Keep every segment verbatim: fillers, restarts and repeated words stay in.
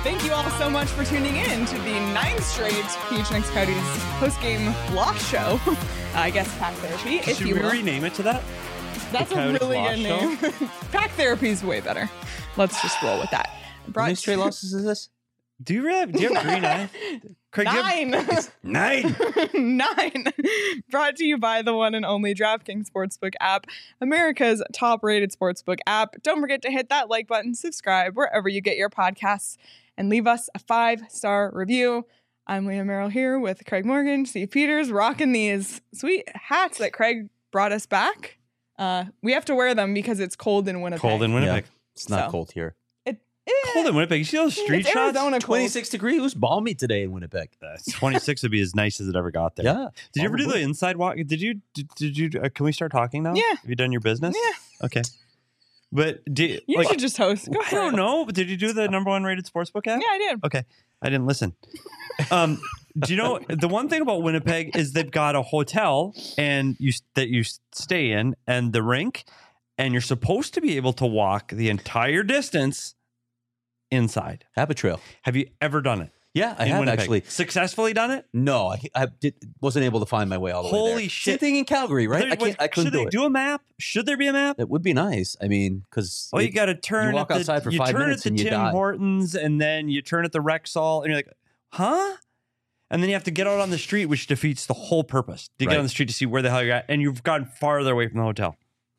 Thank you all so much for tuning in to the ninth straight P H N X Coyotes post-game loss show. I guess Pack Therapy, if Should you we will. rename it to that? That's The a Coyotes really Loss good name. Pack Therapy is way better. Let's just roll with that. How Brought many straight losses is this? Do you really have, do you have green eye? Craig, do you have- Nine. Nine. Nine. Brought to you by the one and only DraftKings Sportsbook app, America's top-rated sportsbook app. Don't forget to hit that like button, subscribe wherever you get your podcasts, and leave us a five-star review. I'm Leah Merrill here with Craig Morgan, Steve Peters, rocking these sweet hats that Craig brought us back. Uh, we have to wear them because it's cold in Winnipeg. Cold in Winnipeg. Yeah, it's not So. cold here. It, eh, Cold in Winnipeg. You see those street it's shots? Arizona cold. twenty-six degrees. It was balmy today in Winnipeg. Uh, twenty-six would be as nice as it ever got there. Yeah. Did you ever do the probably. inside walk? Did you? Did, did you? Uh, can we start talking now? Yeah. Have you done your business? Yeah. Okay. But do You like, should just host. Go I for don't it. know. But did you do the number one rated sportsbook app? Yeah, I did. Okay. I didn't listen. Um, do you know the one thing about Winnipeg is they've got a hotel and you that you stay in and the rink, and you're supposed to be able to walk the entire distance inside. Habit Trail. Have you ever done it? Yeah, I in have Winnipeg? actually. Successfully done it? No, I, I did, wasn't able to find my way all the way there. Holy Same shit. thing in Calgary, right? There- I, can't, I couldn't should do they it. do a map? Should there be a map? It would be nice. I mean, because Well, you got to turn. walk at the, outside for you five turn minutes at and the you Tim die. Hortons, and then you turn at the Rexall, and you're like, huh? And then you have to get out on the street, which defeats the whole purpose. To Right. get on the street to see where the hell you're at, and you've gotten farther away from the hotel.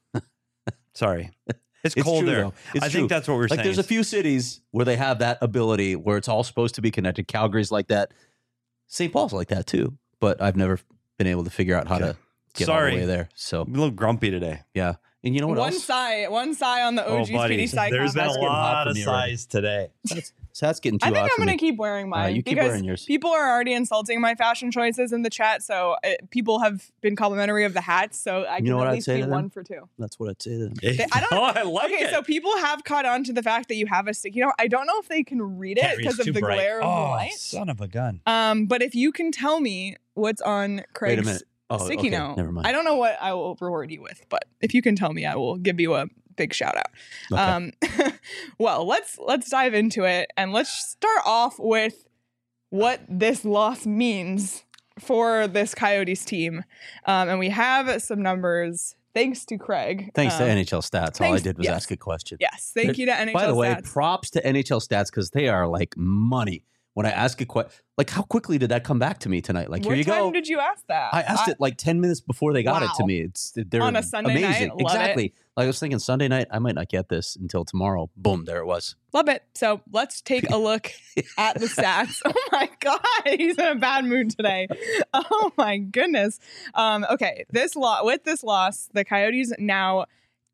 Sorry, it's, It's cold true, there. though. It's I true. think that's what we're like saying. there's a few cities where they have that ability where it's all supposed to be connected. Calgary's like that. Saint Paul's like that too. But I've never been able to figure out how Okay. to get all Sorry. the way there. So I'm a little grumpy today. yeah. And you know what One else? sigh, one sigh on the O G oh, buddy, Speedy Psy there's been a contest. getting hot lot for of me already. size today. So that's getting too I think hot I'm for going to me. keep wearing mine you keep because wearing yours. people are already insulting my fashion choices in the chat. So it, people have been complimentary of the hats. So I can know what at I'd say say be to them? one for two. That's what I'd say to them. They- I don't- oh, I like Okay, it. so people have caught on to the fact that you have a sticky note. I don't know if they can read it Can't read, because it's of too the bright. glare of oh, the light. son of a gun. Um, but if you can tell me what's on Wait a Craig's minute. Oh, sticky okay. note, Never mind. I don't know what I will reward you with, but if you can tell me, I will give you a big shout out. Okay. Um, well, let's let's dive into it and let's start off with what this loss means for this Coyotes team. Um, and we have some numbers thanks to Craig. Thanks um, to N H L Stats. All I thanks- did was yes. ask a question. Yes, thank you to N H L By the way, Stats. props to N H L Stats because they are like money. When I ask a question, like how quickly did that come back to me tonight? Like, what here you time go. did you ask that? I asked it like ten minutes before they got it to Wow. me. It's they're On a Sunday night? amazing. Love it. Exactly. Like I was thinking Sunday night, I might not get this until tomorrow. Boom, there it was. Love it. So let's take a look at the stats. Oh my God, he's in a bad mood today. Oh my goodness. Um, okay, this lot with this loss, the Coyotes now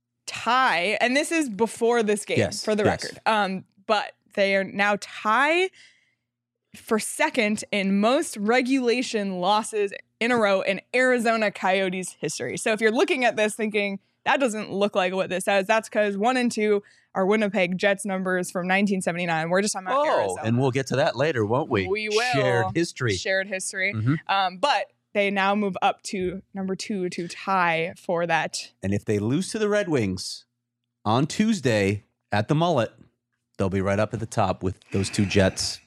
tie, and this is before this game Yes, for the yes. record. Um, but they are now tie for second in most regulation losses in a row in Arizona Coyotes history. So if you're looking at this thinking that doesn't look like what this says, that's because one and two are Winnipeg Jets numbers from nineteen seventy-nine. We're just talking about Oh, Arizona. and we'll get to that later, won't we? We will. Shared history. Shared history. Mhm. Um, but they now move up to number two to tie for that. And if they lose to the Red Wings on Tuesday at the Mullet, they'll be right up at the top with those two Jets.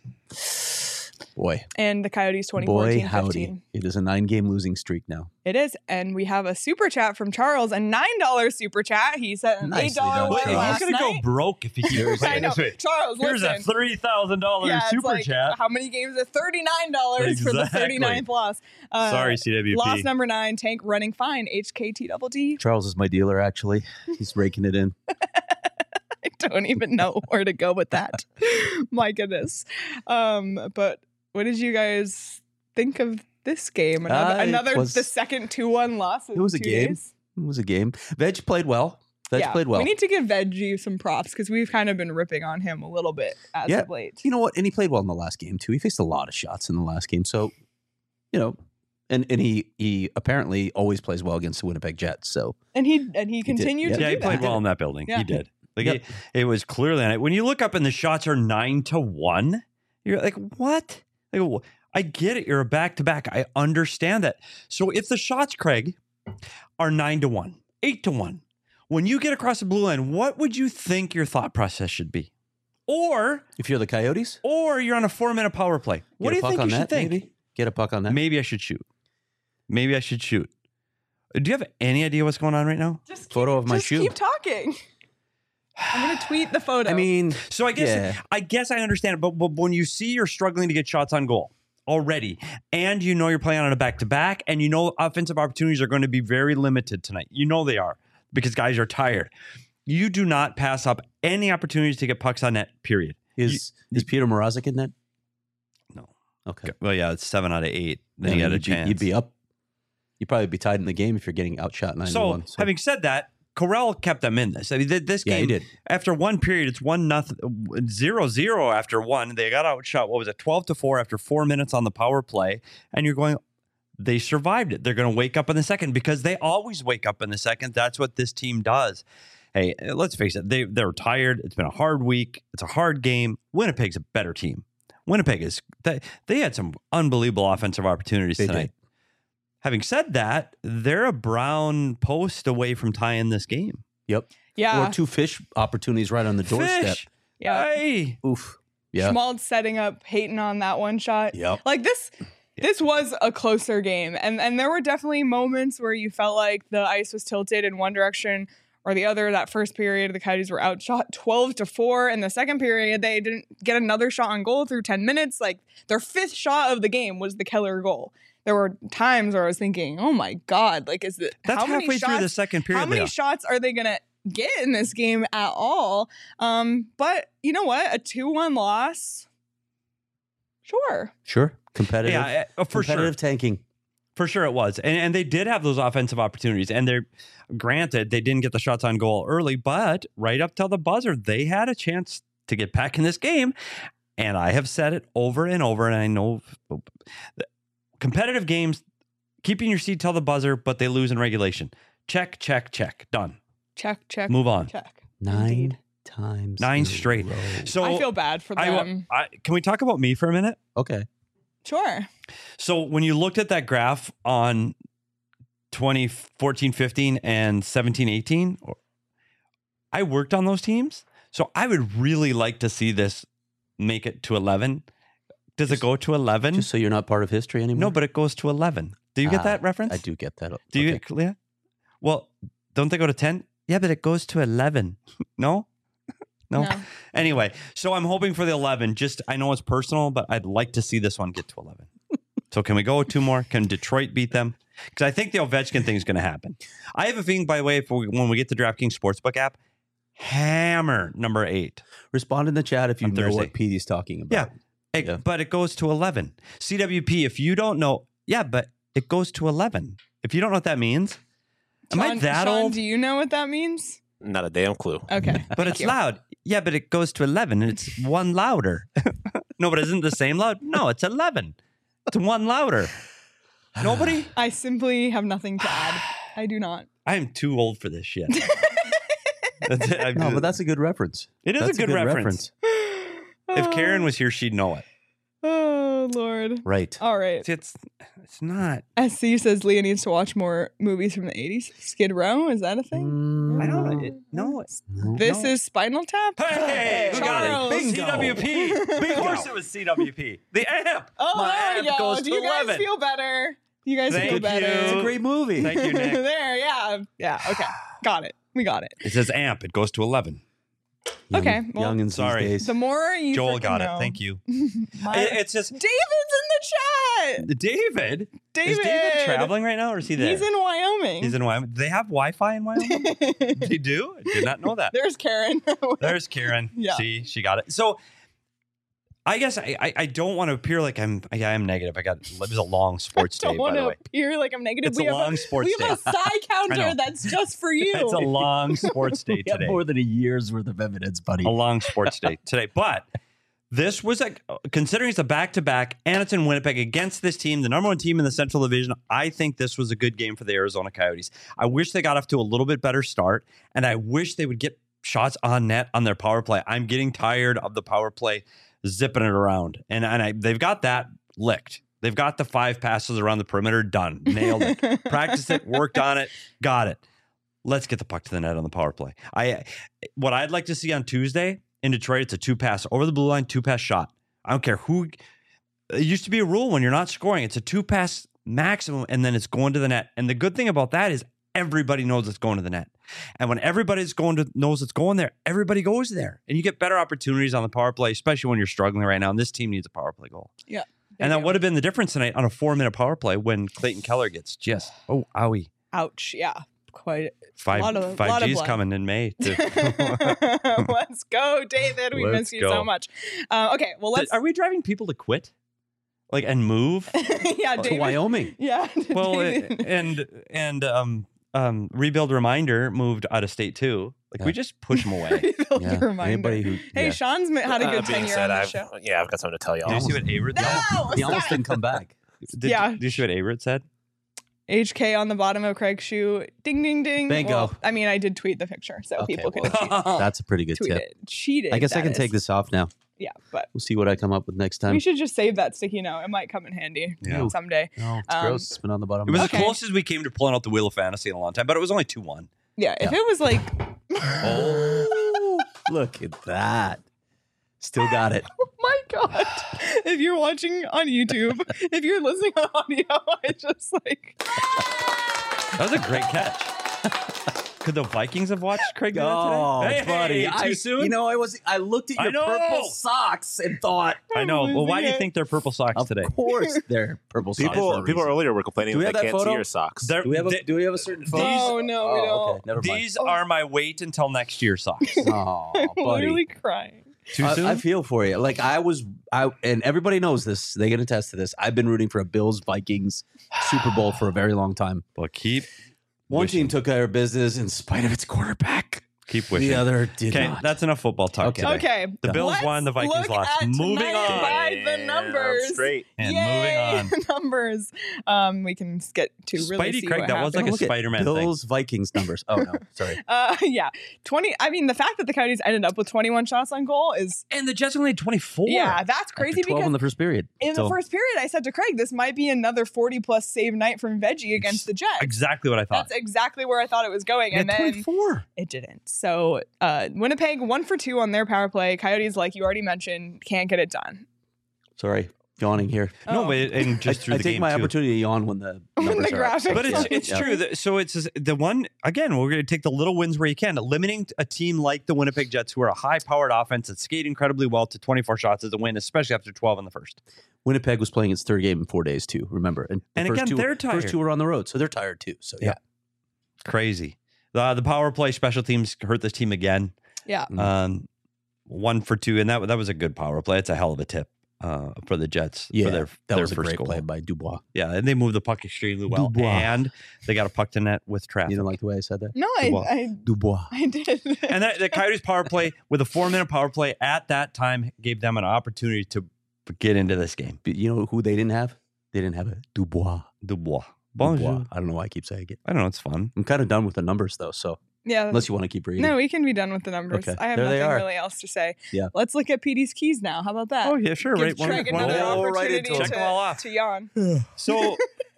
Boy, And the Coyotes twenty boy, fourteen howdy. fifteen. It is a nine-game losing streak now. It is. And we have a super chat from Charles, a nine dollars super chat. He sent an Nicely eight dollars done, one Charles. last He's going to night. go broke if he keeps I know. Charles, Here's listen. a three thousand dollars yeah, it's super like, chat. how many games? Are thirty-nine dollars for the Exactly. thirty-ninth loss. Uh, Sorry, C W P. Loss number nine, Tank running fine, H K T double D. Charles is my dealer, actually. He's raking it in. I don't even know where to go with that. My goodness. Um, but what did you guys think of this game? Another, Uh, it another was- the second two one loss. in It was a two game. days? It was a game. Veg played well. Veg Yeah, played well. We need to give Veggie some props because we've kind of been ripping on him a little bit as Yeah. of late. You know what? And he played well in the last game too. He faced a lot of shots in the last game. So, you know, and and he he apparently always plays well against the Winnipeg Jets. So And he and he did, continued yeah. to Yeah, do he played that. well in that building. Yeah. He did. Like Yep. it, it was clearly when you look up and the shots are nine to one. You're like, what? Like, wh- I get it. You're a back to back. I understand that. So if the shots, Craig, are nine to one, eight to one, when you get across the blue line, what would you think your thought process should be? Or If you're the Coyotes, or you're on a four minute power play. What do get a you puck think on you should that, think? Maybe get a puck on that. Maybe I should shoot. Maybe I should shoot. Do you have any idea what's going on right now? Just keep, Photo of my just shoe. keep talking. I'm gonna tweet the photo. I mean, So I guess Yeah. I guess I understand it, but, but when you see you're struggling to get shots on goal already, and you know you're playing on a back to back, and you know offensive opportunities are going to be very limited tonight. You know they are because guys are tired. You do not pass up any opportunities to get pucks on net. Period. is is Peter Mrazek in that? No. Okay. Well, yeah, it's seven out of eight. Then Yeah, you got a you'd be- chance. You'd be up. You'd probably be tied in the game if you're getting outshot nine to So, one. having said that, Corral kept them in this. I mean, th- this Yeah, he game, did. after one period, it's one nothing, zero zero after one. They got outshot. What was it, twelve to four after four minutes on the power play? And you're going, they survived it. They're going to wake up in the second because they always wake up in the second. That's what this team does. Hey, let's face it. They they're tired. It's been a hard week. It's a hard game. Winnipeg's a better team. Winnipeg is they, they had some unbelievable offensive opportunities They tonight. did. Having said that, they're a Brown post away from tying this game. Yep. yeah, Or two fish opportunities right on the doorstep. Fish. yeah. Hey. Oof. Yeah. Schmaltz setting up Peyton on that one shot. Yep. Like this, this was a closer game, and and there were definitely moments where you felt like the ice was tilted in one direction or the other. That first period, the Coyotes were outshot twelve to four. In the second period, they didn't get another shot on goal through ten minutes. Like their fifth shot of the game was the Keller goal. There were times where I was thinking, "Oh my God! Like, is it That's how many halfway shots, through the second period. How many Leah. shots are they gonna get in this game at all?" Um, but you know what? A two one loss. Sure. Sure. Competitive. Yeah, uh, for sure. competitive tanking. For sure it was. And, and they did have those offensive opportunities. And they're granted, they didn't get the shots on goal early, but right up till the buzzer, they had a chance to get back in this game. And I have said it over and over. And I know competitive games, keeping your seat till the buzzer, but they lose in regulation. Check, check, check. Done. Check, check, Move on. check. Nine Indeed. times. Nine in a straight. row. So I feel bad for I, them. I, can we talk about me for a minute? Okay. Sure. So when you looked at that graph on twenty fourteen fifteen and seventeen eighteen, I worked on those teams. So I would really like to see this make it to eleven. Does it go to eleven? Just so you're not part of history anymore. No, but it goes to eleven. Do you get Ah, that reference? I do get that. Do you Okay. get Leah? Well, don't they go to ten? Yeah, but it goes to eleven. No? No? No. Anyway, so I'm hoping for the eleven. Just, I know it's personal, but I'd like to see this one get to eleven. So can we go two more? Can Detroit beat them? Because I think the Ovechkin thing is going to happen. I have a feeling, by the way, if we, when we get the DraftKings Sportsbook app, hammer number eight. Respond in the chat if you On know Thursday. what Petey's talking about. Yeah. It- Yeah. But it goes to eleven. C W P, if you don't know, yeah, but it goes to eleven. If you don't know what that means, am I Sean- that Sean, old? do you know what that means? Not a damn clue. Okay. But it's loud. Yeah, but it goes to eleven and it's one louder. No, but isn't the same loud? No, it's eleven. It's one louder. Nobody? I simply have nothing to add. I do not. I am too old for this shit. That's it. I- No, but that's a good reference. it is That's a good, reference. If Karen was here, she'd know it. Oh, Lord. Right. All right. See, It's it's not. S C says Leah needs to watch more movies from the eighties. Skid Row, is that a thing? Mm, I don't know. It, no, it's no. This no. is Spinal Tap? Hey, who got Charles. it? C W P. Of course it was C W P. The amp. Oh, My there we amp go. goes Do to you guys eleven. feel better? You guys Thank feel better? you. It's a great movie. Thank you, Nick. There, yeah. Yeah, okay. Got it. We got it. It says amp. It goes to eleven. Young, Okay, well, youngins sorry. these days. The more you Joel freaking got it. know. Thank you. My- It- it's just David's in the chat. David. David. Is David traveling right now, or is he there? He's in Wyoming. He's in Wyoming. Do they have Wi-Fi in Wyoming? They do. I did not know that. There's Karen. There's Karen. Yeah. See, she got it. So, I guess I, I, I don't want to appear like I'm. I am negative. I got it was a long sports Don't day, by want the to way. appear like I'm negative. It's we a have long sports we day. have a side I counter know. that's just for you. It's a long sports day We have today. more than a year's worth of evidence, buddy. A long sports day today. But this was a considering it's a back to back and it's in Winnipeg against this team, the number one team in the Central Division. I think this was a good game for the Arizona Coyotes. I wish they got off to a little bit better start, and I wish they would get shots on net on their power play. I'm getting tired of the power play zipping it around, and and I, they've got that licked. They've got the five passes around the perimeter done, nailed it, practiced it, worked on it, got it. Let's get the puck to the net on the power play. I what I'd like to see on Tuesday in Detroit, it's a two pass over the blue line, two pass shot. I don't care who. It used to be a rule when you're not scoring, it's a two pass maximum, and then it's going to the net. And the good thing about that is everybody knows it's going to the net. And when everybody's going to knows it's going there, everybody goes there, and you get better opportunities on the power play, especially when you're struggling right now. And this team needs a power play goal. Yeah. And that would have been the difference tonight on a four minute power play when Clayton Keller gets just oh owie. Ouch. Yeah. Quite Five lot of- five lot of G's blood. coming in May. too. Let's go, David. We Let's miss you go. so much. Uh, okay, well let's. Are we driving people to quit, like and move? yeah, To David. Wyoming. Yeah. Well, David. it- and and um um rebuild reminder moved out of state too. Like Yeah. we just push them away. Rebuild Yeah. reminder. Anybody who Hey, yeah. Sean's ma- had a Uh, good being tenure said, on the I've, show. Yeah, I've got something to tell Did you y'all. see what Averett said? No, he almost stop. didn't come back. Did, Yeah. Did you see what Averett said? H K on the bottom of Craig's shoe. Ding, ding, ding. Bingo. Well, I mean, I did tweet the picture, so Okay, people could well, have cheated. That's a pretty good tweeted. tip. Cheated. I guess I that can is. take this off now. Yeah, but We'll see what I come up with next time. we should just save that sticky note. It might come in handy Yeah. someday. No, it's Um, gross. It's been on the bottom. It was of the Okay. closest we came to pulling out the wheel of fantasy in a long time, but it was only two one. Yeah, if Yeah. it was like, Oh, look at that. Still got it. oh my god! If you're watching on YouTube, if you're listening on audio, I just like. That was a great catch. Could the Vikings have watched Craig do that Oh, today? Hey, buddy. too I, soon? You know, I was. I looked at I your know. purple socks and thought, I know. Well, why do you losing it. think they're purple socks of today? course, they're purple socks. for People, a people reason. earlier were complaining Do we that have they that can't see photo? your socks. They're- Do we have a they- Do we have a certain photo? No, no, we Oh, don't. okay. Never mind. These are my wait until next year socks. Oh, I'm buddy. literally crying. Too soon? I, I feel for you. Like I was, I and everybody knows this. They can attest to this. I've been rooting for a Bills Vikings Super Bowl for a very long time. well, keep One Wishing. team took care of business in spite of its quarterback. keep wishing. The other did Okay, not. that's enough football talk Okay. today. Okay. The Bills Let's won, the Vikings look lost. at Moving tonight on. by the Yeah, numbers. straight. And Yay, moving on. numbers. Um, we can get to really Spidey see Craig, what that was happened. like a Look at Spider-Man thing. Bills Vikings numbers. Oh no, sorry. Uh, yeah, twenty. I mean, the fact that the Coyotes ended up with twenty-one shots on goal is And the Jets only had twenty-four. yeah, that's crazy. After twelve Because in the first period. in So, the first period, I said to Craig, this might be another forty plus save night from Veggie against the Jets. Exactly what I thought. That's exactly where I thought it was going, They and had then twenty-four. it didn't. So uh, Winnipeg one for two on their power play. Coyotes, like you already mentioned, can't get it done. sorry, yawning here. No, Oh. but and just I, through I the take game my too. opportunity to yawn when the When numbers the are up. graphics But it's Yeah. it's Yeah. true. That, so it's the one again. We're going to take the little wins where you can. Limiting a team like the Winnipeg Jets, who are a high-powered offense that skate incredibly well, to twenty-four shots is a win, especially after twelve in the first. Winnipeg was playing its third game in four days too. Remember, and, the And first again, two, they're tired. First two were on the road, so they're tired too. So yeah, Yeah. Crazy. The the power play special teams hurt this team again. Yeah. Mhm. Um, one for two, and that that was a good power play. It's a hell of a tip uh, for the Jets. yeah, for their, that their was a first great goal. play by Dubois. Yeah, and they moved the puck extremely well, Dubois. and they got a puck to net with traffic. You don't like the way I said that? No, I, Dubois. I, Dubois. I did. And that, the Coyotes power play with a four minute power play at that time gave them an opportunity to get into this game. But you know who they didn't have? They didn't have a Dubois. Dubois. Bonjour. Dubois. I don't know why I keep saying it. I don't know. It's fun. I'm kind of done with the numbers though. So yeah. unless you want to keep reading, No, we can be done with the numbers. Okay. I have There they nothing are. really else to say. Yeah. Let's look at P D's keys now. How about that? Oh yeah, sure. Give Right. One, Craig one of another the- Oh, right opportunity into to, it. Check them all off. to yawn. So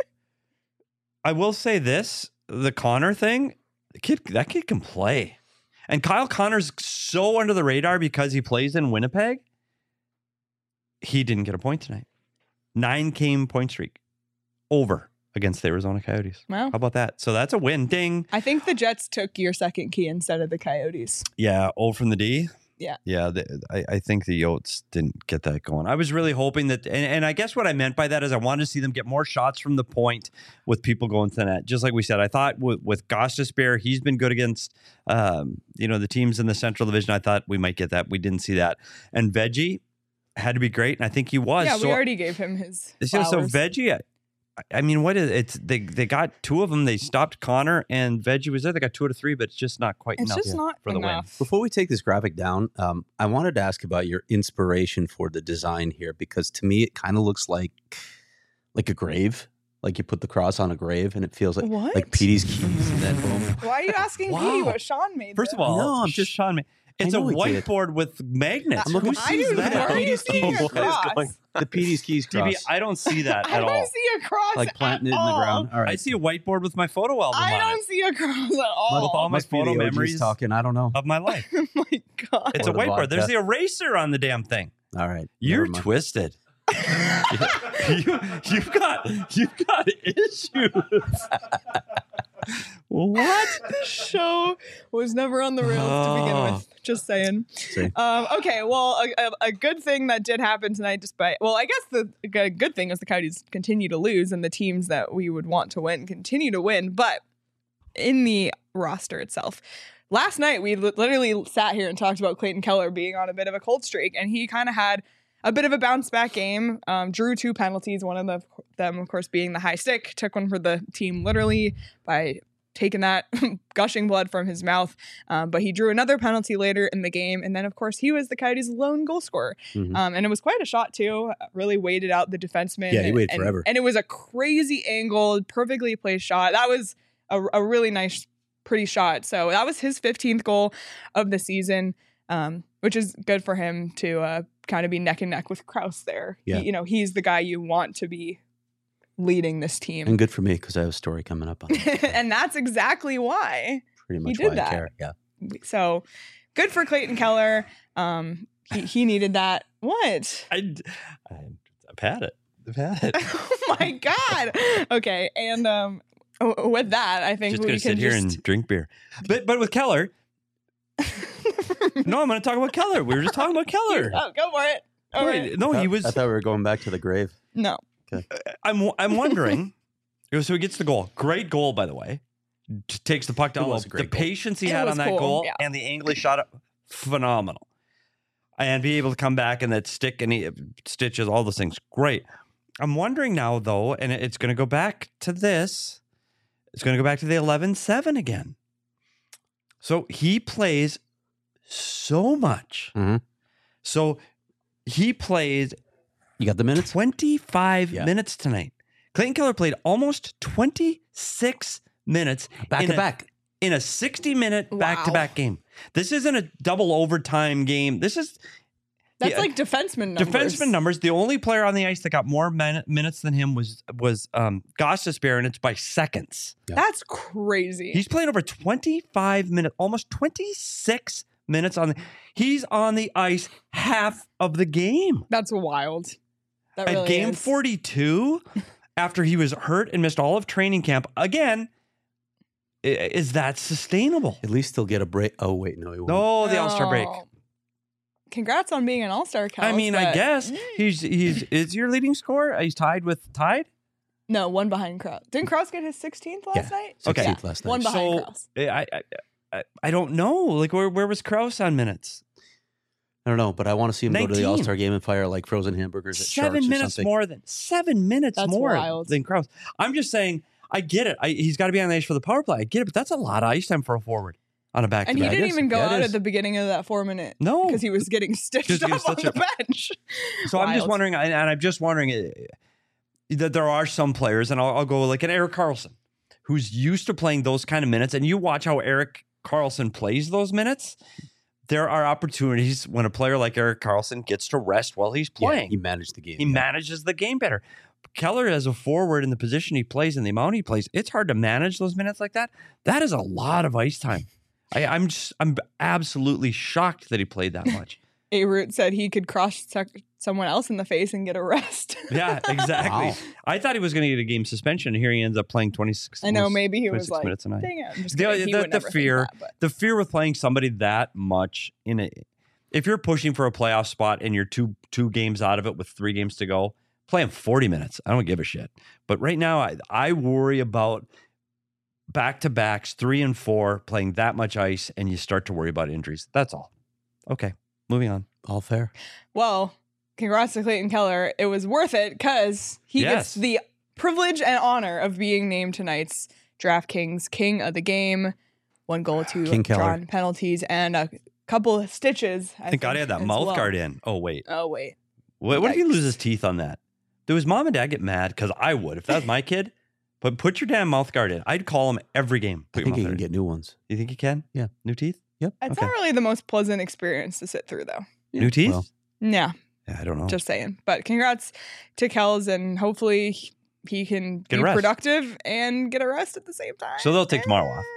I will say this: the Connor thing, the kid, that kid can play, and Kyle Connor's so under the radar because he plays in Winnipeg. He didn't get a point tonight. Nine game point streak over against the Arizona Coyotes. Wow. How about that? So that's a win. Ding. I think the Jets took your second key instead of the Coyotes. Yeah, O from the D. Yeah. Yeah, the, I, I think the Yotes didn't get that going. I was really hoping that, and, and I guess what I meant by that is I wanted to see them get more shots from the point with people going to the net. Just like we said, I thought with, with Gostisbehere, he's been good against, um, you know, the teams in the Central Division. I thought we might get that. We didn't see that. And Veggie had to be great, and I think he was. Yeah, so, we already gave him his so, so flowers. Veggie, I, I mean, what is it's they they got two of them. They stopped Connor, and Veggie was there. They got two out of three, but it's just not quite It's enough just not for the win. enough. Before we take this graphic down, um, I wanted to ask about your inspiration for the design here because to me it kind of looks like like a grave, like you put the cross on a grave, and it feels like What? like Petey's keys and then boom. Why are you asking Wow. Petey what Sean made? First of though? all, No, I'm just- Sean. Ma- It's a know he did. whiteboard with magnets. I'm looking- Who I sees do- Look at that? where are you Petey's seeing keys. a What is cross? going- The Petey's Keys D B, cross. I don't see that I at don't all. see a cross Like planting it at in the all. ground. All right. I see a whiteboard with my photo album I on don't it. see a cross at With all all. my Must be photo the O Gs memories talking. I don't know. of my life. Oh my god! It's Or a the whiteboard. There's vodka. the eraser on the damn thing. All right. You're Never mind. twisted. you, you've got you've got issues. What? This show was never on the rails to begin Oh. with. Just saying. See. Um, okay, well, a, a, a good thing that did happen tonight, despite, well, I guess the g- good thing is the Coyotes continue to lose and the teams that we would want to win continue to win. But in the roster itself, last night we li- literally sat here and talked about Clayton Keller being on a bit of a cold streak, and he kind of had a bit of a bounce back game. Um, drew two penalties, one of the, them, of course, being the high stick. Took one for the team literally by taking that gushing blood from his mouth. Um, but he drew another penalty later in the game. And then, of course, he was the Coyotes' lone goal scorer. Mhm. Um, and it was quite a shot, too. Really waited out the defenseman. Yeah, he and- waited and- forever. And it was a crazy angled, perfectly placed shot. That was a, a really nice, pretty shot. So that was his fifteenth goal of the season, um, which is good for him to uh, kind of be neck and neck with Krause there. Yeah. He, you know, he's the guy you want to be leading this team. And good for me because I have a story coming up on that. And that's exactly why. Pretty much did why that. I care. Yeah. So good for Clayton Keller. Um, he, he needed that. What? I, I, I've had it. I've had it. Oh my God. Okay. And um, w- with that, I think Just we gonna can sit here just. and drink beer. But but with Keller, no, I'm going to talk about Keller. We were just talking about Keller. Oh, go for it. All No, right. no, I he thought- was. I thought we were going back to the grave. No. I'm I'm wondering. So he gets the goal. Great goal, by the way. T- Takes the puck down It low. was a The great goal. patience he It had was on that cool, goal yeah. and the angle he shot it, phenomenal. And be able to come back and that stick and he stitches, all those things, great. I'm wondering now, though, and it- it's going to go back to this. It's going to go back to the eleven seven again. So he plays so much. Mhm. So he plays You got the minutes? twenty-five Yeah. minutes tonight. Clayton Keller played almost twenty-six minutes Back in to a- back. in a sixty-minute Wow. back-to-back game. This isn't a double overtime game. This is That's Yeah. like defenseman numbers. defenseman numbers. The only player on the ice that got more min- minutes than him was was um, Gostisbehere, and it's by seconds. That's crazy. He's played over twenty-five minutes, almost twenty-six minutes on the. He's on the ice half of the game. That's wild. That At really game is. forty-two, after he was hurt and missed all of training camp, again, i- is that sustainable? At least he'll get a break. Oh, wait. No, he won't. No, the All Star break. Oh. Congrats on being an All Star. I mean, I guess he's he's is your leading scorer. He's tied with tied. No, one behind Krause. Didn't Krause get his sixteenth last Yeah. night? Okay. sixteenth last night. One behind So Krause. I, I I I don't know. Like where where was Krause on minutes? I don't know, but I want to see him go to the nineteen. All Star game and fire like frozen hamburgers at Seven Sharks or minutes something. more than seven minutes That's more wild. than Krause. I'm just saying. I get it. I, he's got to be on the ice for the power play. I get it, but that's a lot of ice time for a forward on a back to And he back. didn't is. even go Yeah, it out is. at the beginning of that four minute No, because he was getting stitched Just getting up on stitched the bench. So I'm just Wild. wondering, and and I'm just wondering uh, that there are some players, and I'll, I'll go like an Eric Carlson, who's used to playing those kind of minutes, and you watch how Eric Carlson plays those minutes. There are opportunities when a player like Eric Carlson gets to rest while he's Yeah, playing. he managed the game. he yeah. manages the game better. Keller, as a forward in the position he plays and the amount he plays, it's hard to manage those minutes like that. That is a lot of ice time. I, I'm just, I'm absolutely shocked that he played that much. A Root said he could cross check someone else in the face and get a rest. Yeah, exactly. Wow. I thought he was going to get a game suspension, and here he ends up playing twenty-six. I know almost maybe he was twenty-six like, minutes a night. dang it. I'm just The- kidding. He the- would the never think fear- that, but- The fear with playing somebody that much in it, if you're pushing for a playoff spot and you're two two games out of it with three games to go, play him forty minutes. I don't give a shit. But right now, I, I worry about back to backs, three and four, playing that much ice, and you start to worry about injuries. That's all. Okay, moving on. All fair. Well, congrats to Clayton Keller. It was worth it because he Yes. gets the privilege and honor of being named tonight's DraftKings King of the Game. One goal, two King Keller. drawn penalties, and a couple of stitches. I Thank God he had that as mouth well. guard in. Oh, wait. Oh, wait. What, what if he Yikes. loses teeth on that? Do his mom and dad get mad? Because I would. If that was my kid, but put your damn mouth guard in. I'd call him every game. I Put your think mouth he guard can in. get new ones. You think he can? Yeah. New teeth? Yep. It's okay. not really the most pleasant experience to sit through, though. Yeah, New teeth? well, Yeah, Yeah, I don't know. just saying. But congrats to Kels, and hopefully he- he can Get be a rest. productive and get a rest at the same time. So they'll take tomorrow off.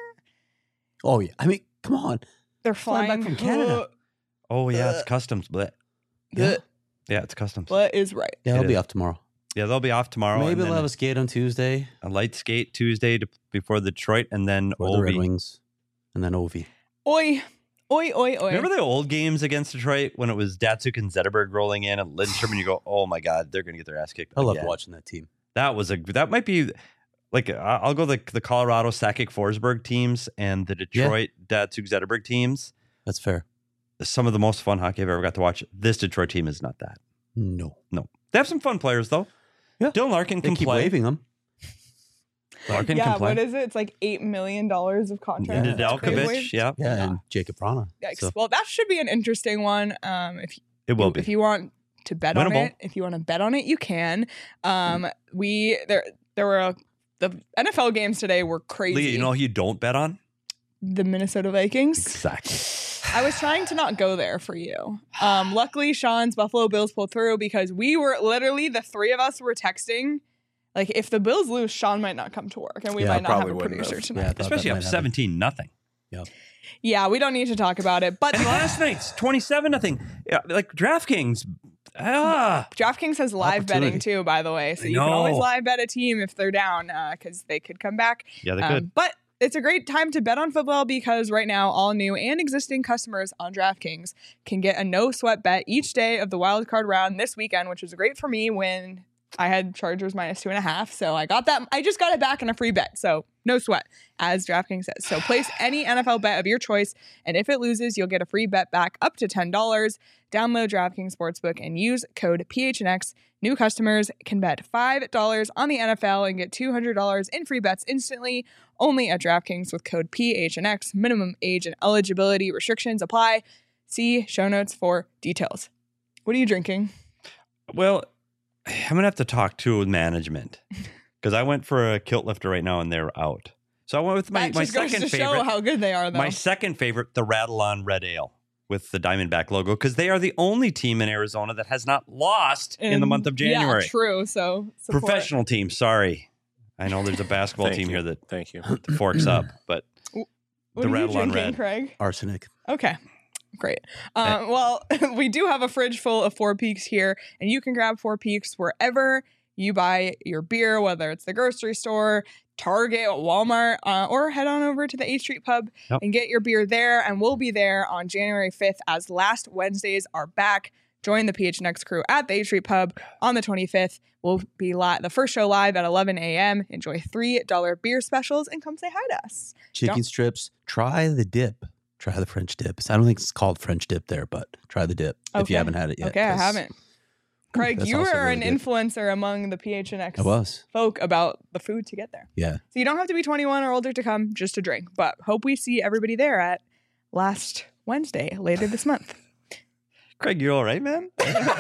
oh yeah. I mean, come on. They're Flying flying back from Canada. Oh yeah, Uh, it's customs. But Yeah. yeah, it's customs. What is right? Yeah, It I'll be is. off tomorrow. Yeah, they'll be off tomorrow. Maybe and they'll then have a skate on Tuesday a light skate Tuesday to, before Detroit, and then for the Red Ovi. Wings, and then Ovi. Oi, oi, oi, oi. Remember the old games against Detroit when it was Datsuk and Zetterberg rolling in and Lindstrom, and you go, "Oh my God, they're going to get their ass kicked." I loved again." watching that team. That was a that might be like I- I'll go the the Colorado Sakic Forsberg teams and the Detroit Datsuk Zetterberg teams. That's fair. Some of the most fun hockey I've ever got to watch. This Detroit team is not that. No, No, they have some fun players though. Yeah. Dylan Larkin they can keep play. waving them. Larkin yeah, can play. what is it? It's like eight million dollars of contract. Yeah. that they Nedeljkovic, waived. yeah, Yeah, Yeah. and Jacob Rana. Yikes. So, Well, that should be an interesting one. Um, if it will you, be. if you want to bet on Winnable. it, if you want to bet on it, you can. Um, we there there were a, the N F L games today were crazy. Leah, you know who you don't bet on? the Minnesota Vikings. Exactly. I was trying to not go there for you. Um, luckily, Sean's Buffalo Bills pulled through because we were literally the three of us were texting. Like, if the Bills lose, Sean might not come to work, and we Yeah, might not have probably a wouldn't producer have. tonight. Yeah, I thought that Especially might up happen. seventeen nothing. Yeah, we don't need to talk about it. But And last night's twenty-seven nothing. Yeah, like DraftKings. Ah, DraftKings has live betting Opportunity. too, by the way. So I you can always know. live bet a team if they're down because they could come back. yeah, they Um, could. but it's a great time to bet on football because right now, all new and existing customers on DraftKings can get a no sweat bet each day of the wild card round this weekend, which was great for me when I had Chargers minus two and a half. So I got that. I just got it back in a free bet. So no sweat, as DraftKings says. So place any N F L bet of your choice. And if it loses, you'll get a free bet back up to ten dollars. Download DraftKings Sportsbook and use code P H N X. New customers can bet five dollars on the N F L and get two hundred dollars in free bets instantly. Only at DraftKings with code P H N X. Minimum age and eligibility restrictions apply. See show notes for details. What are you drinking? Well, I'm gonna have to talk to management because I went for a kilt lifter right now and they're out. So I went with my, that my just goes second to favorite. show how good they are, though. My second favorite, the Rattle On Red Ale with the Diamondback logo, because they are the only team in Arizona that has not lost in the month of January. Yeah, true. So support. Professional team. Sorry, I know there's a basketball Thank team you. here that Thank you. forks up, but What the are you Rattle On drinking, Red. Craig? Arsenic. Okay. Great. Um, well, we do have a fridge full of Four Peaks here, and you can grab Four Peaks wherever you buy your beer, whether it's the grocery store, Target, Walmart, uh, or head on over to the eighth Street Pub Yep. and get your beer there. And we'll be there on January fifth as last Wednesdays are back. Join the P H N X crew at the eighth Street Pub on the twenty-fifth. We'll be li- the first show live at eleven a.m. Enjoy three dollar beer specials and come say hi to us. Chicken Don't- strips. Try the dip. Try the French dip. I don't think it's called French dip there, but try the dip if Okay. you haven't had it yet. Okay, I 'cause haven't. Craig, that's you also are really an good. influencer among the P H N X I was. folk about the food to get there. Yeah. So you don't have to be twenty-one or older to come just to drink, but hope we see everybody there at last Wednesday later this month. Craig, you're all right, man.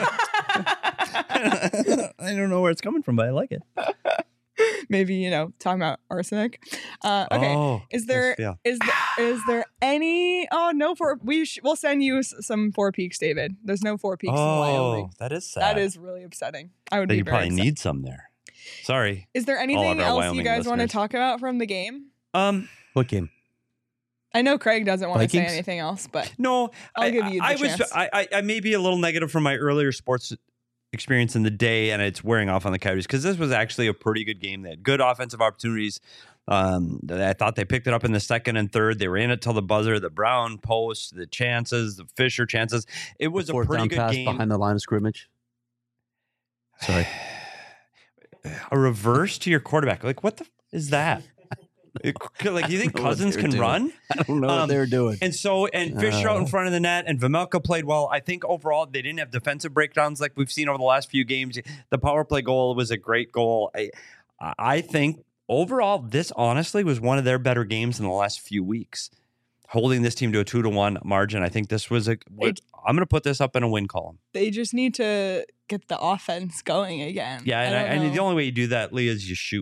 I don't know where it's coming from, but I like it. Maybe, you know, talking about arsenic. Uh, okay. Oh, Is there yeah. is there, is there any? Oh no, for we sh- we'll send you s- some Four Peaks, David. There's no Four Peaks in Oh, Wyoming. that is sad. That is really upsetting. I would that be you very probably upset. need some there. Sorry. Is there all anything of our else you Wyoming guys want to listeners. talk about from the game? Um, What game? I know Craig doesn't want to say Vikings? anything else, but no, I'll I, give you the I, I was chance. I, I I may be a little negative from my earlier sports experience in the day, and it's wearing off on the Coyotes because this was actually a pretty good game. They had good offensive opportunities. Um, I thought they picked it up in the second and third. They were in it till the buzzer. The Brown post, the chances, the Fisher chances. It was a Fourth pretty down good pass game. behind the line of scrimmage. Sorry. A reverse to your quarterback. Like, what the f- is that? It- like, you think know what Cousins they were can doing. run? I don't know Um, what they were doing. And so, and Fisher out in Oh. front of the net, and Vamelka played well. I think overall they didn't have defensive breakdowns like we've seen over the last few games. The power play goal was a great goal. I, I think overall this honestly was one of their better games in the last few weeks. Holding this team to a two to one margin, I think this was a. It- I'm going to put this up in a win column. they just need to get the offense going again. Yeah, and, I don't and know. the only way you do that, Leah, is you shoot.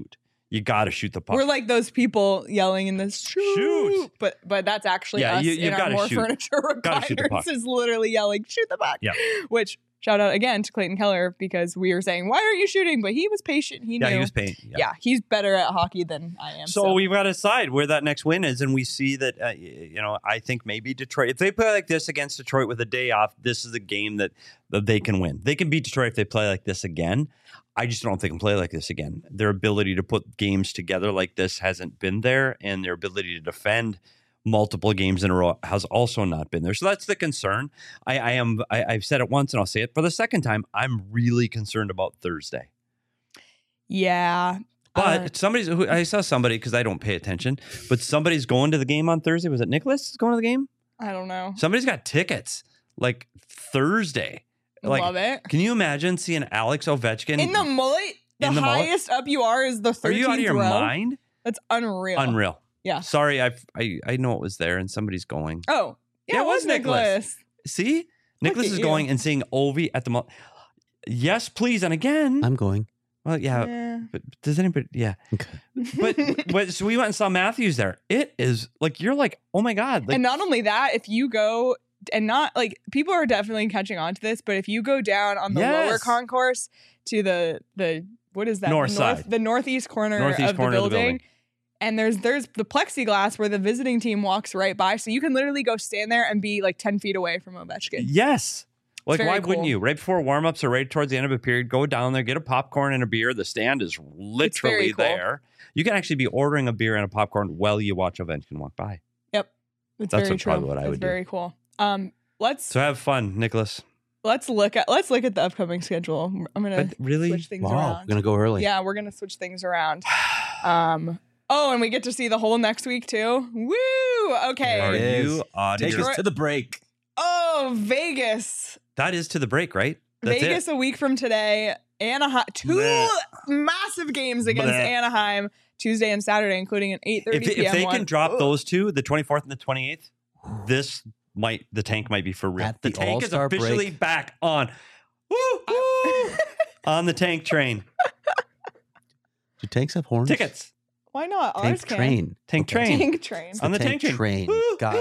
You got to shoot the puck. We're like those people yelling in this shoot, Shoot. but but that's actually Yeah, us you- you've in our gotta more shoot. furniture Gotta shoot the recliners puck. is literally yelling shoot the puck. Yeah. Which shout out again to Clayton Keller because we were saying why aren't you shooting, but he was patient. He yeah, knew. he was paying. Yeah. Yeah, he's better at hockey than I am. So, So, we've got to decide where that next win is, and we see that uh, y- you know I think maybe Detroit. If they play like this against Detroit with a day off, this is a game that, that they can win. They can beat Detroit if they play like this again. I just don't think they can play like this again. Their ability to put games together like this hasn't been there, and their ability to defend multiple games in a row has also not been there. So that's the concern. I, I am. I, I've said it once, and I'll say it for the second time. I'm really concerned about Thursday. yeah. But uh, somebody's. who- I saw somebody because I don't pay attention. But somebody's going to the game on Thursday. Was it Nicholas is going to the game? I don't know. Somebody's got tickets like Thursday. Like, Love it. can you imagine seeing Alex Ovechkin In the mullet, the, in the mullet? highest up you are is the Are thirteenth you out of your row. mind? That's unreal. Unreal. Yeah. Sorry, I I I know it was there, and somebody's going. Oh, yeah, Yeah, it was Nicholas. See, Nicholas at is you. going and seeing Ovi at the mall. Yes, please, and again. I'm going. well, yeah, Yeah. but does anybody? Yeah, Okay. but but so we went and saw Matthews there. It is like you're like, oh my god, like and not only that, if you go and not like people are definitely catching on to this, but if you go down on the Yes. lower concourse to the the what is that North the north, side. the northeast corner, Northeast of, corner the of the building, building. and there's there's the plexiglass where the visiting team walks right by, so you can literally go stand there and be like ten feet away from Ovechkin. yes. Like, very why wouldn't cool. you? Right before warmups or right towards the end of a period, go down there, get a popcorn and a beer. The stand is literally cool. there. You can actually be ordering a beer and a popcorn while you watch Ovechkin walk by. It's That's very what- true. probably what I It's would do. very cool. Um, let's So have fun, Nicholas. let's look at let's look at the upcoming schedule. I'm gonna But really, switch things Wow. around. We're gonna go early. Yeah, we're gonna switch things around. Um. Oh, and we get to see the whole next week too. Woo! Okay. are There it you is. out of Take your- us to the break. Oh, Vegas. That is to the break, right? That's Vegas it. a week from today. Anaheim. Two Bleh. massive games against Bleh. Anaheim Tuesday and Saturday, including an eight thirty If, p.m. if they one. can drop Ugh. those two, the twenty-fourth and the twenty-eighth, this might the tank might be for real. At the, the tank is All-Star officially break. back on. Woo, woo, on the tank train. Do tanks have horns? Tickets. Why not? Ours Tank can. train. Tank Okay. train. Tank train. It's On the tank train. train. Woo, Got it.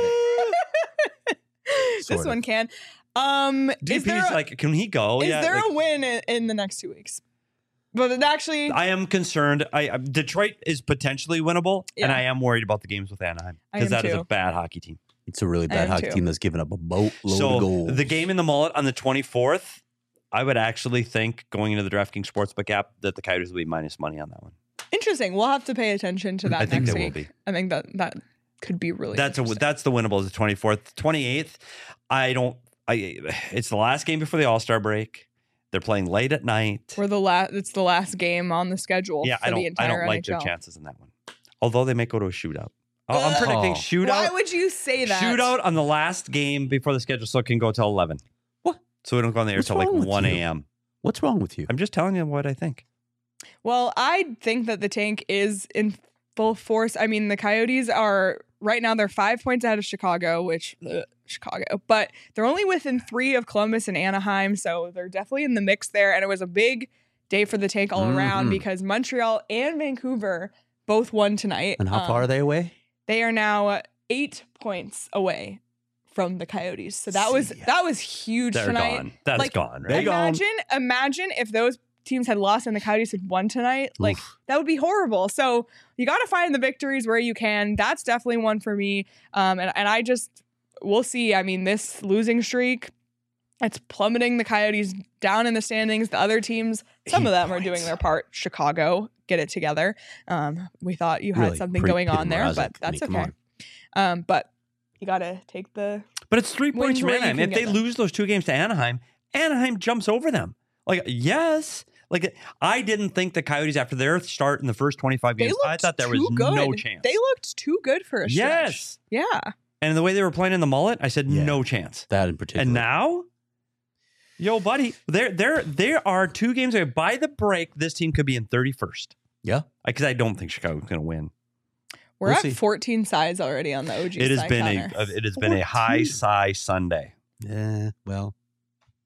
woo. This Sort of. one can. Um, is D P's there a, like, can he go? is yeah. there like, a win in, in the next two weeks? But it actually, I am concerned. I I- Detroit is potentially winnable, and Yeah. I am worried about the games with Anaheim I because am that is too. a bad hockey team. It's a really I bad am hockey too. team that's given up a boatload so of goals. the game in the mullet on the twenty-fourth, I would actually think going into the DraftKings Sportsbook app that the Coyotes will be minus money on that one. interesting. We'll have to pay attention to that I think next they will week. be. I think that that could be really. That's a interesting. that's the winnable is the twenty-fourth, twenty-eighth. I don't. I it's the last game before the All Star break. They're playing late at night. We're the last. It's the last game on the schedule. Yeah, for I the don't. I entire don't like N H L. their chances in that one. Although they may go to a shootout. Oh, I'm Ugh. predicting Oh. shootout. Why would you say that? Shootout on the last game before the schedule, so it can go till eleven. What? So we don't go on the air What's till like wrong with one you? a.m. What's wrong with you? I'm just telling you what I think. Well, I think that the tank is in full force. I mean, the Coyotes are right now. They're five points out of Chicago, which ugh, Chicago, but they're only within three of Columbus and Anaheim, so they're definitely in the mix there. And it was a big day for the tank all around Mhm. because Montreal and Vancouver both won tonight. And how Um, far are they away? They are now eight points away from the Coyotes. So that was See ya. that was huge They're tonight. gone. That's Like, gone, They right? gone. Imagine, imagine if those teams had lost and the Coyotes had won tonight. Like Oof. that would be horrible. So you got to find the victories where you can. That's definitely one for me. Um, and and I just we'll see. I mean, this losing streak, it's plummeting the Coyotes down in the standings. The other teams, some Eight of them are points. doing their part. Chicago, get it together. Um, we thought you had Really, something pre- going Peter on there, Mrazek. but I mean, that's come okay. on. Um, but you got to take the But it's three Wins points from where you Anaheim. can If they get them. lose those two games to Anaheim, Anaheim jumps over them. Like, yes. Like, I didn't think the Coyotes, after their start in the first twenty-five they games, looked I thought there was too good. no chance. They looked too good for a stretch. Yes. Yeah. And the way they were playing in the mullet, I said, Yeah. no chance. That in particular. And now, yo, buddy, there, there, there are two games away. By the break, this team could be in thirty-first. Yeah. Because I don't think Chicago's going to win. We're We'll at see. fourteen sides already on the O G It has side, been Connor. a, it has been a high fourteen. sigh Sunday. Yeah. Well,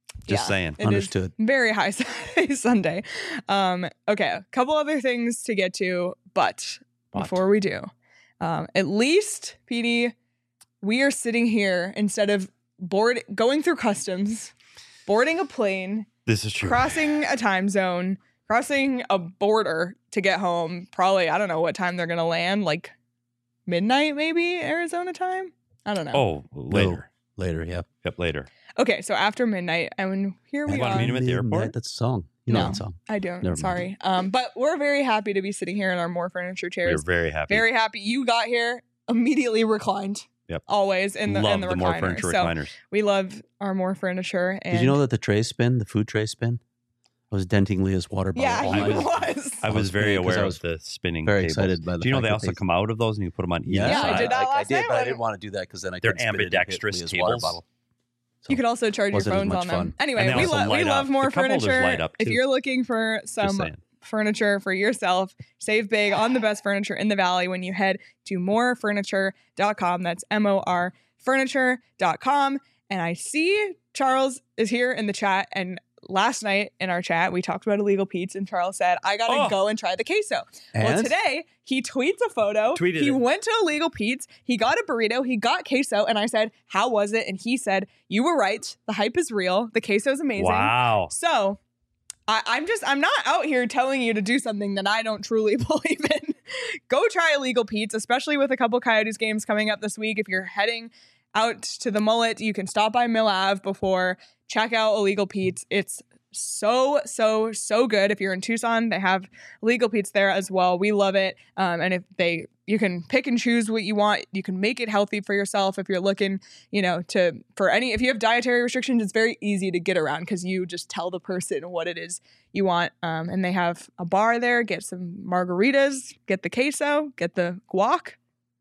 Just Yeah, saying. it is Understood. very high Sunday. Um, okay, a couple other things to get to, but But. before we do, um, at least, P D, we are sitting here instead of board going through customs, boarding a plane, This is true. crossing a time zone, crossing a border to get home. Probably, I don't know what time they're gonna land, like midnight, maybe Arizona time. I don't know. Oh, later. Later, yeah. Yep, later. Okay, so after midnight, and here we You want to are. meet him at the airport? Midnight, That's a song. You know No. that song. I don't. Never mind. Sorry. Um, but we're very happy to be sitting here in our More Furniture We're chairs. very happy. Very happy. You got here immediately reclined. Yep. Always in the Love in the, the more recliner. furniture So recliners. we love our More Furniture. And Did you know that the trays spin, the food tray spin? I was denting Leah's water bottle Yeah, all he night. was. I I was was very very- 'cause aware I was of the spinning very tables. excited by the Do you know fact they that also they- come out of those and you put them on either Yeah, I side? did that I, last did, night but I when- didn't want to do that because then I They're could spit it and hit ambidextrous Leah's water tables. bottle. You could also charge your Wasn't as phones much on them. fun. Anyway, And they we, also lo- we light love up. More The cup holders Furniture. light up, If too. you're looking for Just some saying. furniture for yourself, save big on the best furniture in the valley when you head to more furniture dot com. That's M O R furniture dot com. And I see Charles is here in the chat. And last night in our chat, we talked about Illegal Pete's, and Charles said, I got to Oh. go and try the queso. Well, And today he tweets a photo. Tweeted he it. went to Illegal Pete's. He got a burrito. He got queso. And I said, how was it? And he said, you were right. The hype is real. The queso is amazing. Wow. So I, I'm just, I'm not out here telling you to do something that I don't truly believe in. Go try Illegal Pete's, especially with a couple Coyotes games coming up this week. If you're heading out to the Mullet, you can stop by Mill Ave before, check out Illegal Pete's. It's so, so, so good. If you're in Tucson, they have Illegal Pete's there as well. We love it. Um, and if they, you can pick and choose what you want. You can make it healthy for yourself. If you're looking, you know, to, for any, if you have dietary restrictions, it's very easy to get around because you just tell the person what it is you want. Um, and they have a bar there. Get some margaritas, get the queso, get the guac.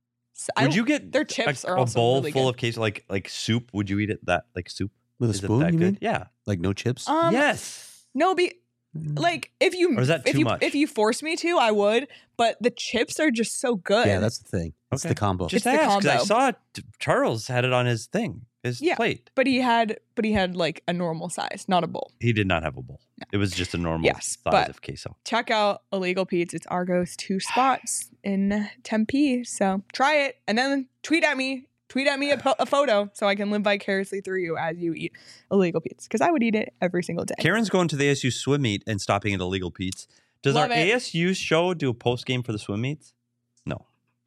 So I- Would you get their chips a, are a also bowl really full good. of queso, like like soup? Would you eat it that like soup? with a Is it spoon, that you good? mean? Yeah. Like no chips? Um, yes. No, be like if you Or is that if too you much? if you force me to, I would. But the chips are just so good. yeah, that's the thing. It's Okay. the combo. Just It's the ask, 'cause I combo. saw t- Charles had it on his thing, his Yeah. plate. But he had, but he had like a normal size, not a bowl. He did not have a bowl. It was just a normal Yes, size but- of queso. Check out Illegal Pete's. It's Argo's two spots in Tempe. So try it and then tweet at me. Tweet at me a, po- a photo so I can live vicariously through you as you eat Illegal Pete's because I would eat it every single day. Karen's going to the A S U swim meet and stopping at Illegal Pete's. Does Love our it. A S U show do a post game for the swim meets? No.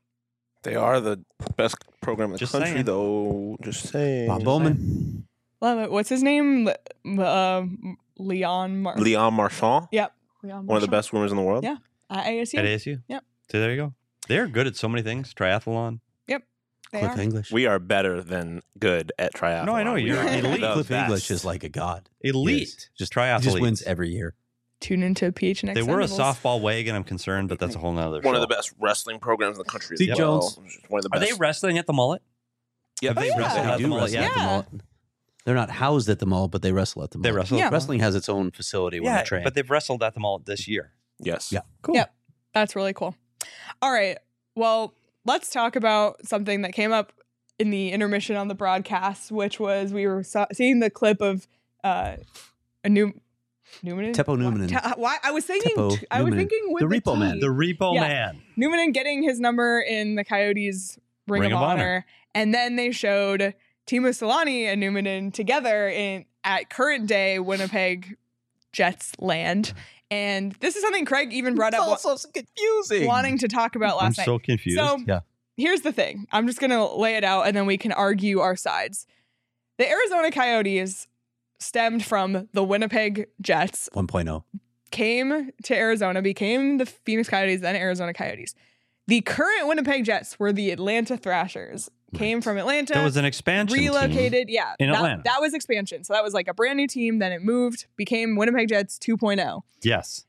They are the best program in the Just country, saying. though. Just saying. Bob Bowman. Love it. What's his name? Le- uh, Leon Mar- Leon Marchand, Yep. Leon one of the Marchand. best swimmers in the world. Yeah. At A S U. At A S U? Yep. So there you go. They're good at so many things. Triathlon. They Cliff are. English. We are better than good at triathlon. No, I know, We you're are elite. the Cliff best. English is like a god. Elite. Yes. Just triathletes. He just wins every year. Tune into P H N X. They were a Sentinels. softball wagon, I'm concerned, but that's a whole nother one show. of the best wrestling programs in the country. Zeke as well. Jones. One of the Are best. they wrestling at the mullet? Yep. Have they Oh, yeah. wrestled They at do the mullet wrestle yet? at the Yeah. mall. They're not housed at the mall, but they wrestle at the mall. They wrestle. Yeah. At the Wrestling has its own facility when yeah, they train. but they've wrestled at the mullet this year. Yes. Yeah. Cool. Yep. That's really cool. All right. Well, let's talk about something that came up in the intermission on the broadcast, which was we were so- seeing the clip of uh, a new Newman. Teppo Numanen. Why, why I was thinking? Teppo t- I was Numanen. thinking with The the, Repo T. Man. The Repo Yeah. Man. Newmanen getting his number in the Coyotes Ring, Ring of, of Honor. Honor. and then they showed Timo Solani and Newmanen together in at current day Winnipeg Jets land. And this is something Craig even brought up, so confusing. wanting to talk about I'm last night. so confused. So Yeah. here's the thing. I'm just going to lay it out and then we can argue our sides. The Arizona Coyotes stemmed from the Winnipeg Jets, one point oh. came to Arizona, became the Phoenix Coyotes, then Arizona Coyotes. The current Winnipeg Jets were the Atlanta Thrashers. Came from Atlanta. there was an expansion team. relocated. Yeah. in that, Atlanta. That was expansion. So that was like a brand new team. Then it moved, became Winnipeg Jets two point oh. Yes.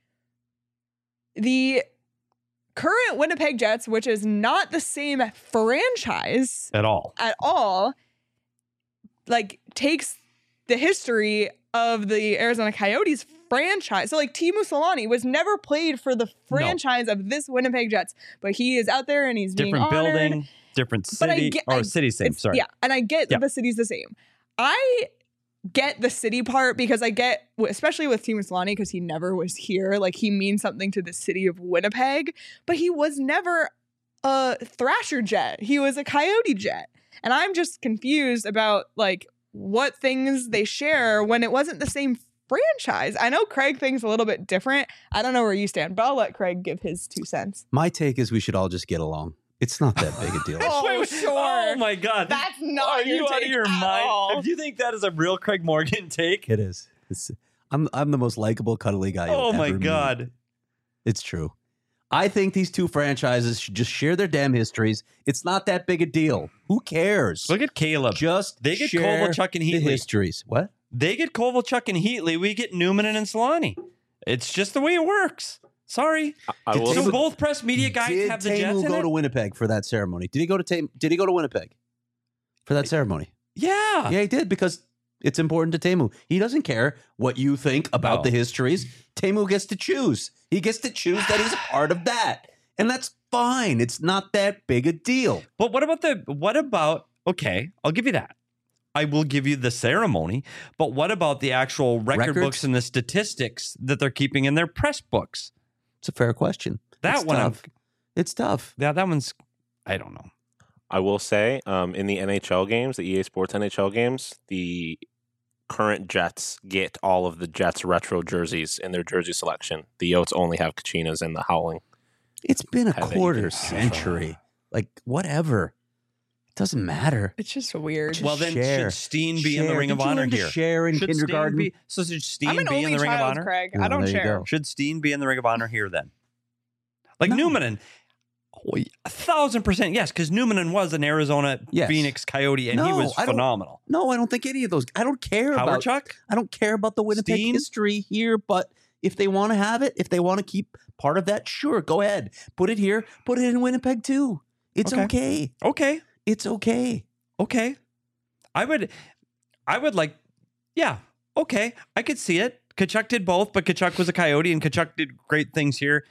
The current Winnipeg Jets, which is not the same franchise At all. at all, like takes the history of the Arizona Coyotes franchise. So like Timo Solani was never played for the franchise of this Winnipeg Jets, but he is out there and he's being Different honored. building, different But I city. get- or I- city same, It's- sorry. Yeah, and I get Yeah. that the city's the same. I get the city part because I get, especially with Teemu Selanne, because he never was here. Like, he means something to the city of Winnipeg, but he was never a Thrasher Jet. He was a Coyote Jet. And I'm just confused about, like, what things they share when it wasn't the same franchise. I know Craig thinks a little bit different. I don't know where you stand, but I'll let Craig give his two cents. My take is we should all just get along. It's not that big a deal. Oh, Wait, wait, sure. Oh my God. That's not Are your you out of take your at mind? all. Do you think that is a real Craig Morgan take? It is. It's, I'm I'm the most likable, cuddly guy. You'll Oh my ever meet. God. It's true. I think these two franchises should just share their damn histories. It's not that big a deal. Who cares? Look at Caleb. Just They get share Kovalchuk and the Heatley. histories. What? They get Kovalchuk and Heatley. We get Newman and Solani. It's just the way it works. Sorry. I Did will. So Tamu- both press media guys Did have the Tamu Jets in go it? to Winnipeg for that ceremony? Did he go to Tam- Did he go to Winnipeg for that ceremony? Yeah. Yeah, he did because it's important to Tamu. He doesn't care what you think about No. the histories. Tamu gets to choose. He gets to choose that he's a part of that, and that's fine. It's not that big a deal. But what about the, what about, okay, I'll give you that. I will give you the ceremony, but what about the actual record Records? books and the statistics that they're keeping in their press books? It's a fair question. That It's one, I'm, tough. It's tough. yeah, that one's, I don't know. I will say, um, in the N H L games, the E A Sports N H L games, the current Jets get all of the Jets retro jerseys in their jersey selection. The Yotes only have Kachinas and the Howling. It's been a Have it quarter even- century. Like whatever. It doesn't matter. It's just weird. Just Well, then share. should Steen be in the Share. Ring of Did you Honor learn to here? share in Should kindergarten? Steen be, so should Steen I'm an be in only the Ring of child, Honor? Craig. No, I don't there you share. go. Should Steen be in the Ring of Honor here then? Like No. Newmanen. Oh, a thousand percent yes, because Newmanen was an Arizona Yes. Phoenix Coyote and he No, was I don't- phenomenal. No, I don't think any of those. I don't care Howard about. Chuck? I don't care about the Winnipeg Steen? history here, but if they want to have it, if they want to keep part of that, sure, go ahead. Put it here. Put it in Winnipeg too. It's Okay. okay. Okay. It's okay. Okay. I would I would like yeah, okay. I could see it. Kachuk did both, but Kachuk was a Coyote and Kachuk did great things here.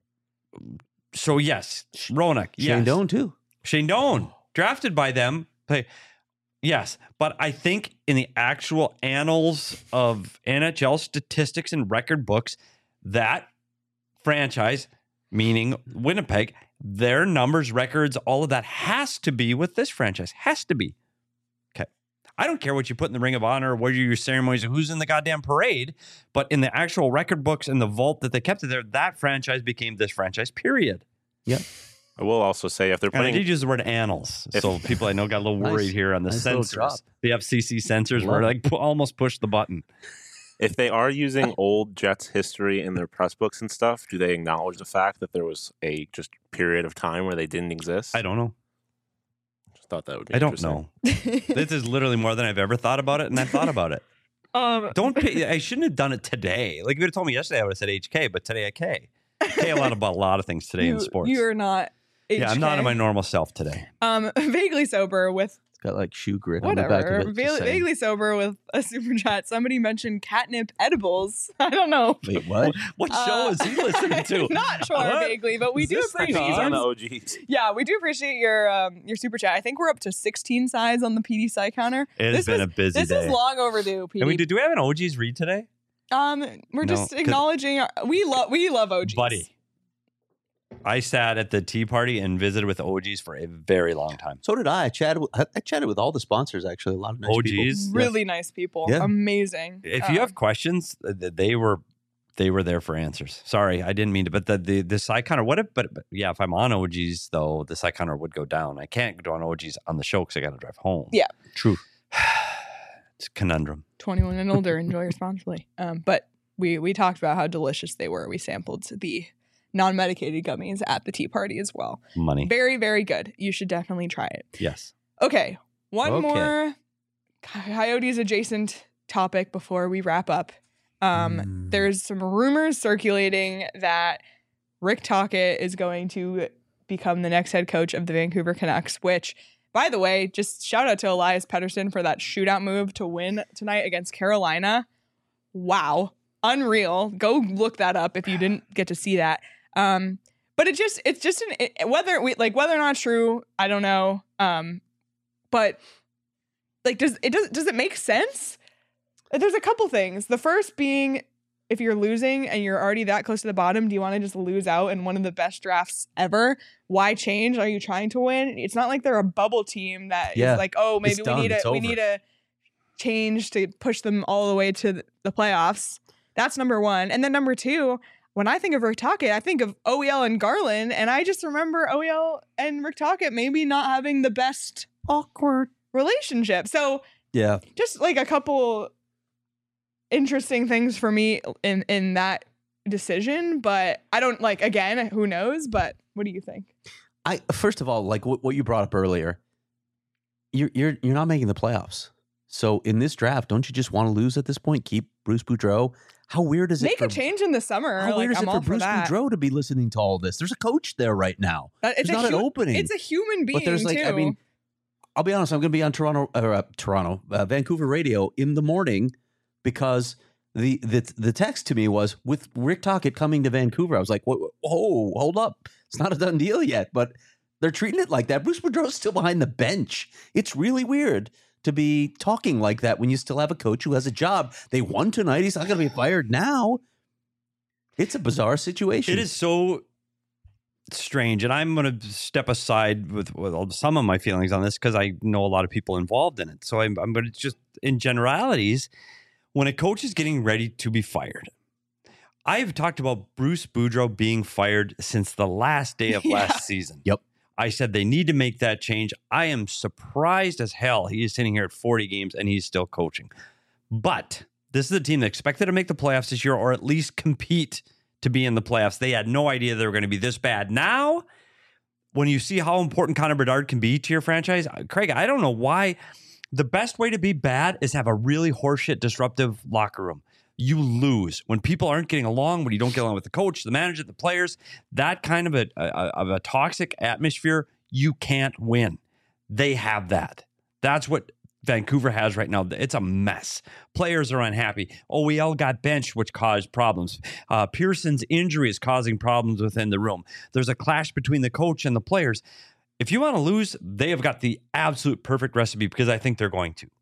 So yes, Ronak, yes. Shane Doan too. Shane Doan, drafted by them. Play. Yes, but I think in the actual annals of N H L statistics and record books, that franchise, meaning Winnipeg, their numbers, records, all of that has to be with this franchise. Has to be. Okay. I don't care what you put in the Ring of Honor, what are your ceremonies, or who's in the goddamn parade, but in the actual record books and the vault that they kept it there, that franchise became this franchise, period. Yeah. I will also say, if they're And I putting did use the word annals, If- so people I know got a little Nice. worried here on the Nice little censors. drop. The F C C censors Love were it. like pu- almost pushed the button. if they are using old Jets history in their press books and stuff, do they acknowledge the fact that there was a just period of time where they didn't exist? I don't know. Just thought that would be I don't interesting. know. This is literally more than I've ever thought about it, and I've thought about it. um, Don't pay, I shouldn't have done it today. Like if you would have told me yesterday, I would have said H K, but today I K. K a lot about a lot of things today you, in sports. You are not. Yeah, I'm not H K. in my normal self today. Um, vaguely sober with It's got like shoe grit on the back whatever. of it. Va- just saying. vaguely sober with a super chat. Somebody mentioned catnip edibles. I don't know. Wait, what? What Uh, show is he listening to? Not sure What? vaguely, but we Is do this the appreciate. He's on the your- O Gs. Yeah, we do appreciate your um, your super chat. I think we're up to sixteen sides on the P D Psy counter. It has This been is- a busy This day. is long overdue, P D. And we did. Do we have an O Gs read today, Um, we're No, just 'cause- acknowledging our, we love we love O Gs, buddy? I sat at the tea party and visited with O Gs for a very long time. So did I. I chatted. With, I chatted with all the sponsors. Actually, a lot of nice O people. Gs. Really nice people, Yeah. amazing. If you Um, have questions, th- th- they were they were there for answers. Sorry, I didn't mean to. But the the the Psyconer, what if? But, but yeah, if I'm on O Gs though, the Psyconer would go down. I can't go on O Gs on the show because I got to drive home. Yeah. True. It's a conundrum. twenty-one and older, enjoy responsibly. Um, but we we talked about how delicious they were. We sampled the non-medicated gummies at the tea party as well. Money. Very, very good. You should definitely try it. Yes. Okay, one Okay. more Coyotes adjacent topic before we wrap up. Um, Mm. There's some rumors circulating that Rick Tocchet is going to become the next head coach of the Vancouver Canucks, which, by the way, just shout out to Elias Pettersson for that shootout move to win tonight against Carolina. Wow. Unreal. Go look that up if you didn't get to see that. Um, but it just, it's just an, it, whether we like, whether or not true, I don't know. Um, but like, does it, does, does it make sense there's a couple things. The first being, if you're losing and you're already that close to the bottom, do you want to just lose out in one of the best drafts ever? Why change? Are you trying to win? It's not like they're a bubble team that Yeah. is like, oh, maybe It's we done. need a It's we over. need a change to push them all the way to the playoffs. That's number one. And then number two, when I think of Rick Tocchet, I think of O E L and Garland, and I just remember O E L and Rick Tocchet maybe not having the best Awkward. relationship. So Yeah. just like a couple interesting things for me in in that decision, but I don't like, again, who knows, but what do you think? I first of all, like what, what you brought up earlier, you're you're you're not making the playoffs. So in this draft, don't you just want to lose at this point? Keep Bruce Boudreau. How weird is it? Make for, a change in the summer. How Like, weird is I'm it all for Bruce that. Boudreau to be listening to all this? There's a coach there right now. That- it's There's a not hu- an opening. It's a human being But there's like, too. I mean, I'll be honest. I'm going to be on Toronto, or uh, Toronto, uh, Vancouver radio in the morning because the the the text to me was with Rick Tocchet coming to Vancouver. I was like, whoa, whoa, hold up, it's not a done deal yet, but they're treating it like that. Bruce Boudreau's still behind the bench. It's really weird to be talking like that when you still have a coach who has a job. They won tonight. He's not going to be fired now. It's a bizarre situation. It is so strange, and I'm going to step aside with, with some of my feelings on this because I know a lot of people involved in it. So I'm, I'm going to just, in generalities, when a coach is getting ready to be fired, I've talked about Bruce Boudreau being fired since the last day of Yeah. last season. Yep. I said they need to make that change. I am surprised as hell he is sitting here at forty games and he's still coaching. But this is a team that expected to make the playoffs this year or at least compete to be in the playoffs. They had no idea they were going to be this bad. Now, when you see how important Connor Bedard can be to your franchise, Craig, I don't know why. The best way to be bad is have a really horseshit, disruptive locker room. You lose when people aren't getting along, when you don't get along with the coach, the manager, the players, that kind of a, a of a toxic atmosphere, you can't win. They have that. That's what Vancouver has right now. It's a mess. Players are unhappy. O E L got benched, which caused problems. Uh, Pearson's injury is causing problems within the room. There's a clash between the coach and the players. If you want to lose, they have got the absolute perfect recipe because I think they're going to.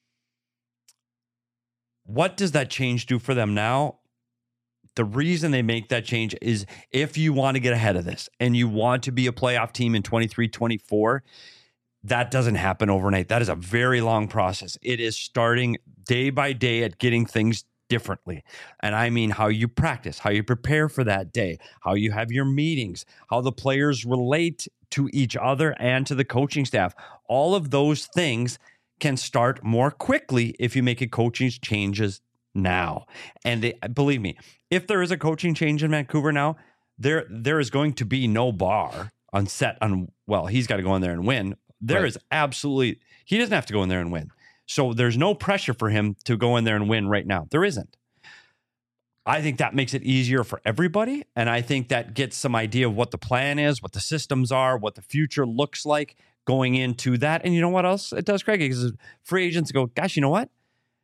What does that change do for them now? The reason they make that change is if you want to get ahead of this and you want to be a playoff team in twenty-three twenty-four, that doesn't happen overnight. That is a very long process. It is starting day by day at getting things differently. And I mean how you practice, how you prepare for that day, how you have your meetings, how the players relate to each other and to the coaching staff. All of those things can start more quickly if you make a coaching changes now. And they, believe me, if there is a coaching change in Vancouver now, there there is going to be no bar on set on, well, he's got to go in there and win. There Right. is absolutely, he doesn't have to go in there and win. So there's no pressure for him to go in there and win right now. There isn't. I think that makes it easier for everybody. And I think that gets some idea of what the plan is, what the systems are, what the future looks like going into that. And you know what else it does, Craig? Because free agents go, gosh, you know what?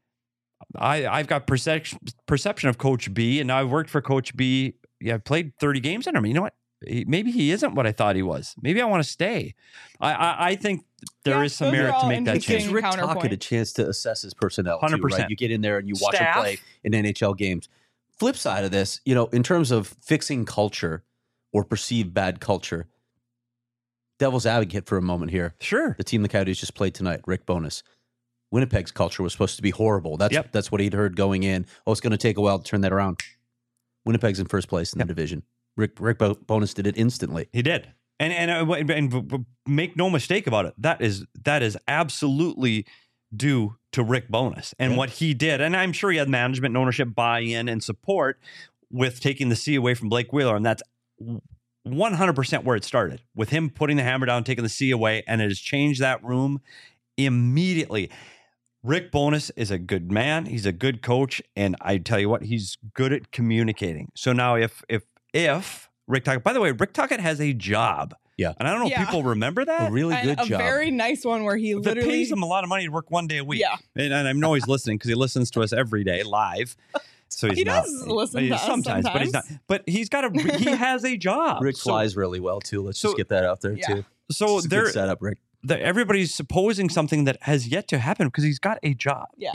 I, I've got perception perception of Coach B, and now I've worked for Coach B. Yeah, I've played thirty games under him. You know what? He, maybe he isn't what I thought he was. Maybe I want to stay. I I, I think there Yeah, is some those are merit all to make that It gives change. Rick Counterpoint. Tocchet a chance to assess his personnel. one hundred too, right? percent. You get in there and you watch Staff. him play in N H L games. Flip side of this, you know, in terms of fixing culture or perceived bad culture, devil's advocate for a moment here. Sure. The team the Coyotes just played tonight, Rick Bowness. Winnipeg's culture was supposed to be horrible. That's Yep. that's what he'd heard going in. Oh, it's going to take a while to turn that around. Winnipeg's in first place in Yep. the division. Rick Rick Bo- Bowness did it instantly. He did. And and, uh, and and make no mistake about it. That is that is absolutely due to Rick Bowness and Yeah. what he did. And I'm sure he had management and ownership buy-in and support with taking the C away from Blake Wheeler. And that's one hundred percent where it started, with him putting the hammer down, taking the C away, and it has changed that room immediately. Rick Bowness is a good man. He's a good coach. And I tell you what, he's good at communicating. So now if if if Rick Tocchet, by the way, Rick Tocchet has a job. Yeah. And I don't know Yeah. if people remember that. A really And good a job. very nice one where he That literally pays him a lot of money to work one day a week. Yeah. And, and I know he's listening because he listens to us every day live. So he's He not. does listen he- to us sometimes, but he's not. sometimes. But he's got a. He has a job. Rick So- flies really well too. Let's so- just get that out there Yeah. too. So It's a there, good setup, Rick. the, everybody's supposing something that has yet to happen because he's got a job. Yeah. Yeah.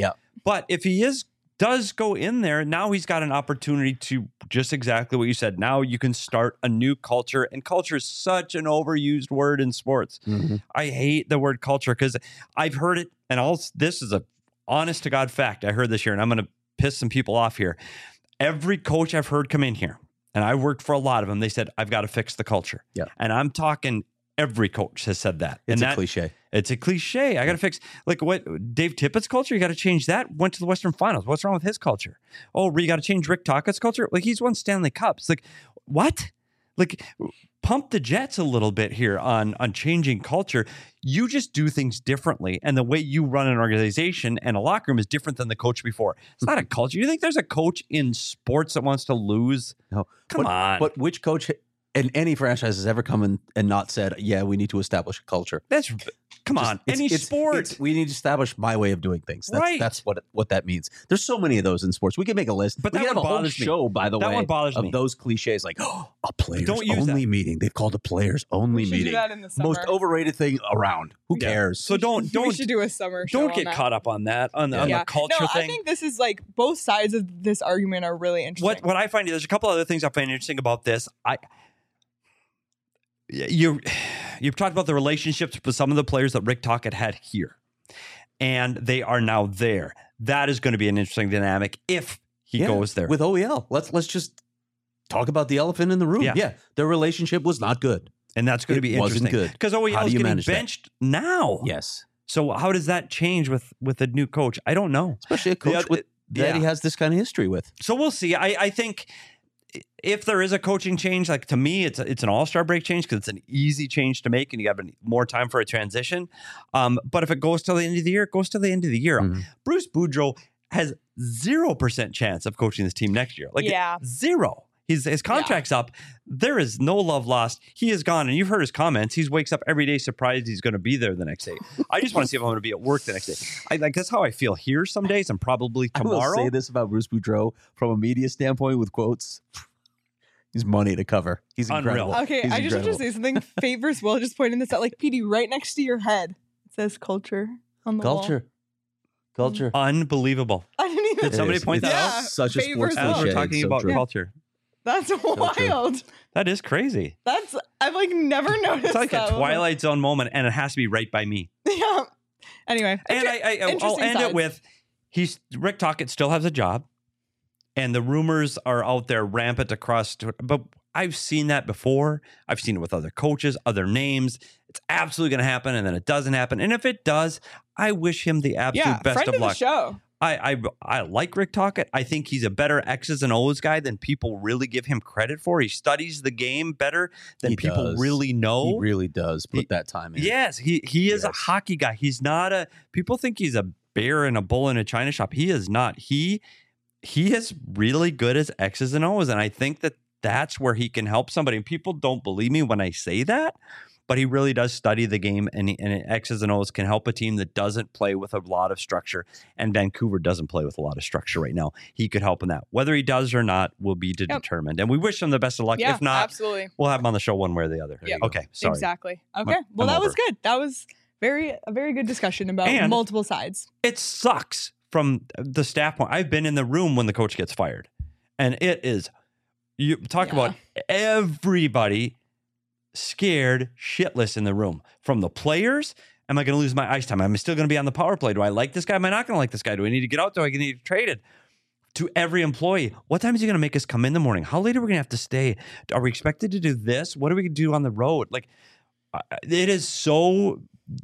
But if he is does go in there, now he's got an opportunity to just exactly what you said. Now you can start a new culture, and culture is such an overused word in sports. Mhm. I hate the word culture because I've heard it, and all this is a honest to God fact. I heard this year, and I'm going to piss some people off here. Every coach I've heard come in here, and I worked for a lot of them, they said, I've got to fix the culture. Yeah. And I'm talking every coach has said that. It's and a that, cliche. It's a cliche. I got to fix, like what Dave Tippett's culture, you got to change that. Went to the Western Finals. What's wrong with his culture? Oh, you got to change Rick Tocchet's culture? Like he's won Stanley Cups. Like what? Like pump the Jets a little bit here on, on changing culture. You just do things differently. And the way you run an organization and a locker room is different than the coach before. It's not a culture. You think there's a coach in sports that wants to lose? No. Come but, on. But which coach in any franchise has ever come in and not said, yeah, we need to establish a culture? That's come Just- on. it's- Any it's- sport. it's- we need to establish my way of doing things. That's, Right. that's what what that means. There's so many of those in sports. We can make a list. But we that can have a one whole bothers me. show, by the That way, one bothers of me. those cliches like, oh, a players Don't use only meeting. They've called a players only We should do meeting. that in the summer. Most overrated thing around. Who Yeah. cares? So don't we don't should do a summer show don't on get that. caught up on that on, the on Yeah. the culture no, thing. I think this is like both sides of this argument are really interesting. What what I find there's a couple other things I find interesting about this. I you you've talked about the relationships with some of the players that Rick Tocchet had here, and they are now there. That is going to be an interesting dynamic if he Yeah, goes there. with O E L. Let's let's just talk about the elephant in the room. Yeah. Yeah, their relationship was not good. and that's going to it be wasn't interesting good. because O E How L do is you getting manage that? benched now. Yes, So how does that change with with a new coach? I don't know. especially a coach other- with, that yeah. he has this kind of history with. So we'll see. I, I think if there is a coaching change, like to me, it's a, it's an all-star break change because it's an easy change to make and you have an- more time for a transition. Um, but if it goes till the end of the year, it goes till the end of the year. Mhm. Bruce Boudreau has zero percent chance of coaching this team next year. Like Yeah. zero. He's, his contract's up. There is no love lost. He is gone. And you've heard his comments. He wakes up every day surprised he's going to be there the next day. I just want to see if I'm going to be at work the next day. I like that's how I feel here some days and probably I will tomorrow. say this about Bruce Boudreau from a media standpoint with quotes. He's money to cover. He's Unreal. incredible. Okay, He's I just incredible. want to say something. Favors Will just pointing this out. Like, P D, right next to your head, it says culture on the wall. Culture. Culture. Unbelievable. I didn't even. Did somebody It is. point that It's out? Such a Favors sports Will. As cliche. we're talking so about true. culture. That's true. wild. That is crazy. That's I've like never noticed. It's like that a before. Twilight Zone moment, and it has to be right by me. Yeah. Anyway, And inter- I, I I'll interesting end sides. it with he's Rick Tocchet still has a job, and the rumors are out there rampant across. But I've seen that before. I've seen it with other coaches, other names. It's absolutely going to happen, and then it doesn't happen. And if it does, I wish him the absolute yeah, best friend of of the luck. show. I, I I like Rick Tocchet. I think he's a better X's and O's guy than people really give him credit for. He studies the game better than He people does. really know. He really does put He- that time in. Yes, he he is a Yes. hockey guy. He's not a people think he's a bear and a bull in a china shop. He is not. He he is really good as X's and O's, and I think that that's where he can help somebody. And people don't believe me when I say that, but he really does study the game, and, he, and X's and O's can help a team that doesn't play with a lot of structure. And Vancouver doesn't play with a lot of structure right now. He could help in that. Whether he does or not will be Yep. determined. And we wish him the best of luck. Yeah, if not, absolutely. we'll have him on the show one way or the other. Yeah. Okay, sorry. Exactly. Okay. I'm- well, I'm that was over. good. That was very a very good discussion about And- multiple sides. It sucks from the staff point. I've been in the room when the coach gets fired, and it is you talk Yeah. about everybody scared shitless in the room. From the players, am I going to lose my ice time? Am I still going to be on the power play? Do I like this guy? Am I not going to like this guy? Do I need to get out? Do I need to get traded? To every employee, what time is he going to make us come in the morning? How late are we going to have to stay? Are we expected to do this? What are we going to do on the road? Like, uh, it is so.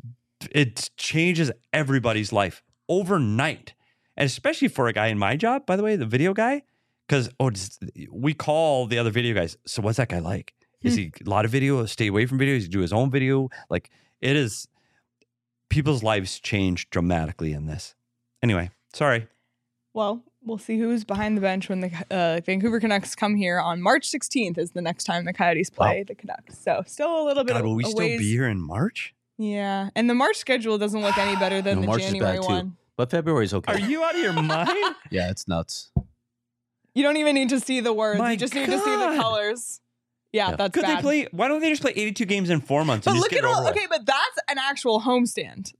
It changes everybody's life overnight, and especially for a guy in my job, by the way, the video guy, because oh, just- we call the other video guys. So what's that guy like? Is he a lot of video? Stay away from video. Does he do his own video? Like it is. People's lives change dramatically in this. Anyway, sorry. Well, we'll see who's behind the bench when the uh, Vancouver Canucks come here on March sixteenth. Is the next time the Coyotes play Wow. the Canucks. So still a little bit. God, of will we a still ways. be here in March? Yeah, and the March schedule doesn't look any better than No, the March is January bad too. one. But February's okay. Are you out of your mind? Yeah, it's nuts. You don't even need to see the words. My you just need to see the God. colors. Yeah, Yeah. that's Could bad. they play? Why don't they just play eighty-two games in four months? But and look just at get it all. over with? Okay, but that's an actual homestand. Like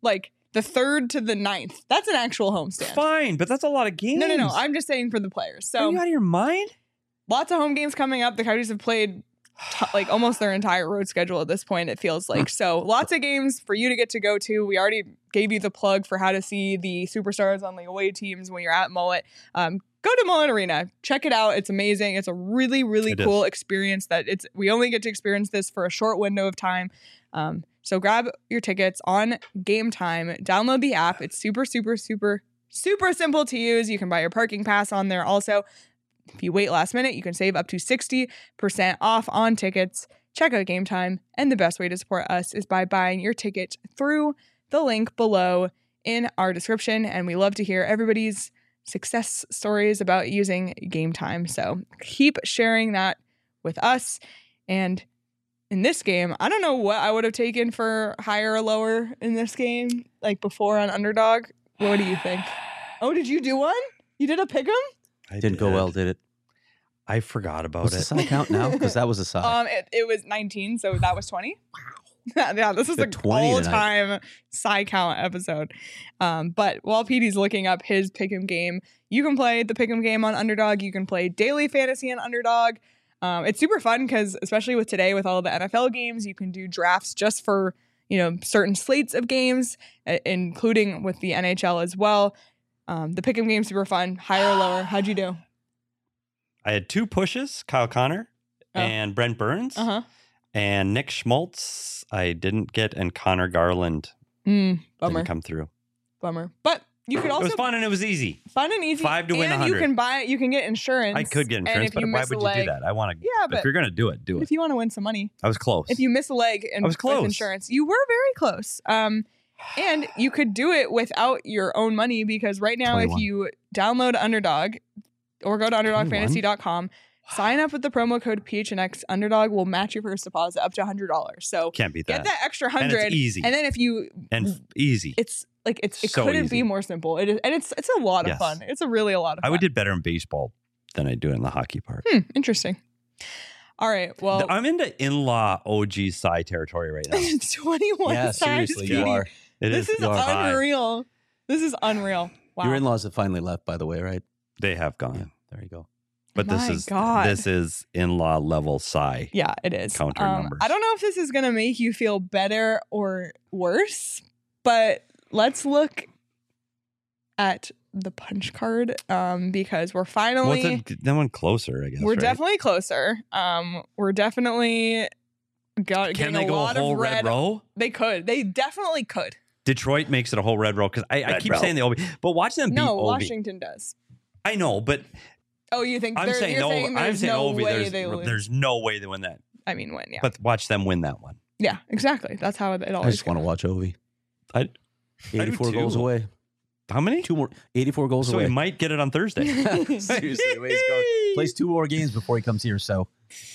the third to the ninth. That's an actual homestand. Fine, but that's a lot of games. No, no, no. I'm just saying for the players. Are So you out of your mind? lots of home games coming up. The Coyotes have played t- like almost their entire road schedule at this point, it feels like. So lots of games for you to get to go to. We already gave you the plug for how to see the superstars on the away teams when you're at Mullet. Um, go to Mullet Arena. Check it out. It's amazing. It's a really, really It cool experience that it's we only get to experience this for a short window of time. Um, so grab your tickets on Game Time. Download the app. It's super, super, super, super simple to use. You can buy your parking pass on there also. If you wait last minute, you can save up to sixty percent off on tickets. Check out Game Time. And the best way to support us is by buying your ticket through the link below in our description. And we love to hear everybody's success stories about using Game Time. So keep sharing that with us. And in this game, I don't know what I would have taken for higher or lower in this game, like before on Underdog. What do you think? Oh, did you do one? You did a pick'em? I Didn't go did. well, did it? I forgot about What's it. the side count now? Because that was a side. Um, it, it was nineteen, so that was twenty. Wow. Yeah, this is Got an twenty all-time side count episode. Um, but while Petey's looking up his pick'em game, you can play the pick'em game on Underdog. You can play daily fantasy on Underdog. Um, it's super fun because, especially with today, with all the N F L games, you can do drafts just for you know certain slates of games, uh, including with the N H L as well. Um, the pick'em game's super fun. Higher or lower? How'd you do? I had two pushes, Kyle Connor Oh. and Brent Burns, Uh huh. and Nick Schmaltz. I didn't get, and Connor Garland Mm, bummer. didn't come through. Bummer. But you could It also was fun and it was easy. fun and easy. Five to win and a you hundred. can buy. You can get insurance. I could get and insurance, if but you why miss a would you do leg- that? I want to. Yeah, but if you're gonna do it, do it. if you want to win some money, I was close. if you miss a leg and I was with close. insurance, you were very close. Um, and you could do it without your own money because right now, twenty-one. if you download Underdog or go to underdog fantasy dot com, sign up with the promo code P H N X. Underdog will match your first deposit up to one hundred dollars. So Can't beat get that. that extra And hundred, it's easy and then if you, and f- easy. it's like it's it So couldn't easy. be more simple. It is, and it's it's a lot of Yes. fun. It's a really a lot of I fun. would did better in baseball than I do in the hockey part. Hmm, interesting. All right. Well, I'm into in-law O G Psy territory right now. twenty-one yeah, size seriously, Petey. you are. It This is you are high. unreal. This is unreal. Wow. Your in-laws have finally left, by the way, right? They have Yeah, gone, there you go. but this My is God. this is in-law level Psy. Yeah, it is. Counter Um, numbers. I don't know if this is going to make you feel better or worse, but let's look at the punch card um, because we're What's finally, it? That one closer, I guess. we're right? definitely closer. Um, we're definitely got, Can getting they a go a lot whole of red red. row? They could. They definitely could. Detroit makes it a whole red row because I, I Red keep row. saying the O V, but watch them beat No, O V. Washington does. I know, but Oh, you think I'm they're, saying you're no. saying I'm there's saying no O V. way There's, they lose. there's no way they win that. I mean, win, yeah. But watch them win that one. Yeah, exactly. That's how it, it I always just want to watch Ovi. I, do eighty-four goals too. away. how many? Two more. eighty-four goals So away. we might get it on Thursday. Seriously, the way he's going. Plays two more games before he comes here. So,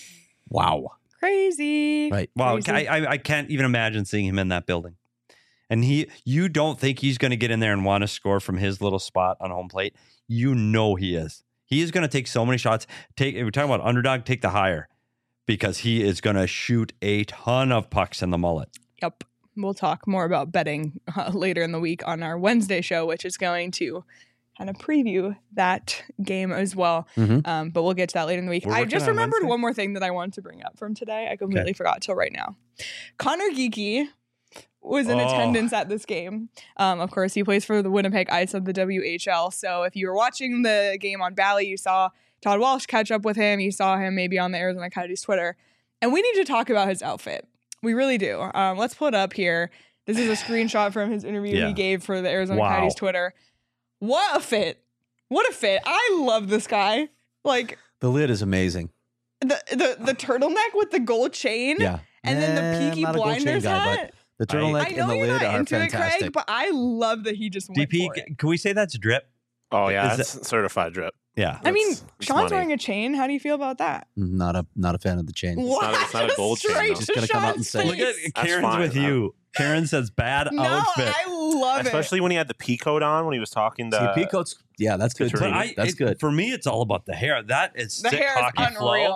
wow. Crazy. Right. Wow, Crazy. I, I I can't even imagine seeing him in that building. And he, you don't think he's going to get in there and want to score from his little spot on home plate? You know he is. He is going to take so many shots. Take. If we're talking about underdog, take the higher because he is going to shoot a ton of pucks in the mullet. Yep. We'll talk more about betting uh, later in the week on our Wednesday show, which is going to kind of preview that game as well. Mhm. Um, but we'll get to that later in the week. We're I working just on remembered Wednesday? one more thing that I wanted to bring up from today. I completely forgot till right now. Connor Geeky was in Oh. attendance at this game. Um, of course, he plays for the Winnipeg Ice of the W H L. So if you were watching the game on Bally, you saw Todd Walsh catch up with him. You saw him maybe on the Arizona Coyotes Twitter. And we need to talk about his outfit. We really do. Um, let's pull it up here. This is a screenshot from his interview Yeah. he gave for the Arizona Wow. Coyotes Twitter. What a fit. What a fit. I love this guy. Like The lid is amazing. the the, the turtleneck with the gold chain. Yeah. And then Eh, the I'm Peaky not a gold chain Blinders guy, hat. but the turtleneck I know and the you're lid not are into it, fantastic. Craig, but I love that he just went D P, for it. can we say that's drip? Oh yeah, Is that's certified drip. Yeah. I mean, That's- it's Sean's money. wearing a chain. How do you feel about that? not a not a fan of the chain. What? not a- it's not a gold chain, Straight though. to Just gonna come out and Sean's say- Look at face. That's Karen's fine. with you. Karen says bad No, outfit. I love it. Especially when he had the pea coat on when he was talking to. See, Peacoat's, yeah, that's good. But too. But I, that's it- good. For me, it's all about the hair. That is the sick hair is hockey flow. unreal.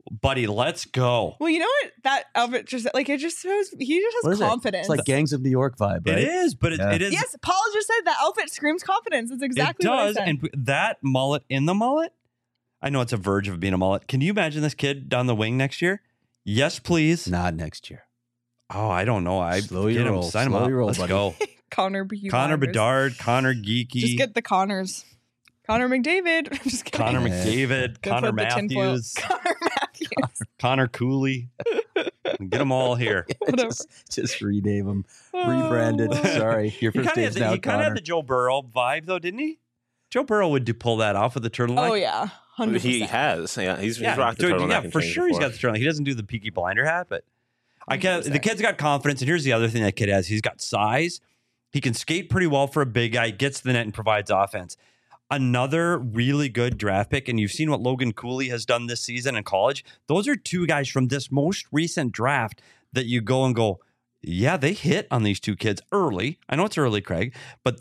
buddy, let's go. Well, you know what? That outfit just like it just shows he just What has is it? confidence. It's like Gangs of New York vibe, right? It is, but it, Yeah. it is. Yes, Paul just said that outfit screams confidence. That's exactly it what I does, said. and that mullet in the mullet. I know it's a verge of being a mullet. Can you imagine this kid down the wing next year? Yes, please. Not next year. Oh, I don't know. I Slow get your him, roll. sign him Slow up. your roll, Let's buddy. go. Connor B. Connor Myers. Bedard, Connor Geeky, Just get the Connors. Connor McDavid. I'm just kidding. Connor Yeah. McDavid, Go Connor put the tinfoil- Matthews, Connor Matthews. Connor Cooley. Get them all here. Whatever. just, just rename them. Rebranded. Oh. Sorry. Your He first kind of name's had, now the- he kinda Connor. had the Joe Burrow vibe, though, didn't he? Joe Burrow would do pull that off with the turtleneck. Oh yeah, one hundred percent. He has. Yeah, he's, yeah, he's rocked the Joe- turtleneck yeah, and for chains sure. He's before. got the turtleneck. He doesn't do the Peaky Blinder hat, but I can, the one hundred percent. kid's got confidence. And here's the other thing that kid has: he's got size. He can skate pretty well for a big guy. Gets to the net and provides offense. Another really good draft pick, and you've seen what Logan Cooley has done this season in college. Those are two guys from this most recent draft that you go and go, yeah, they hit on these two kids early. I know it's early, Craig, but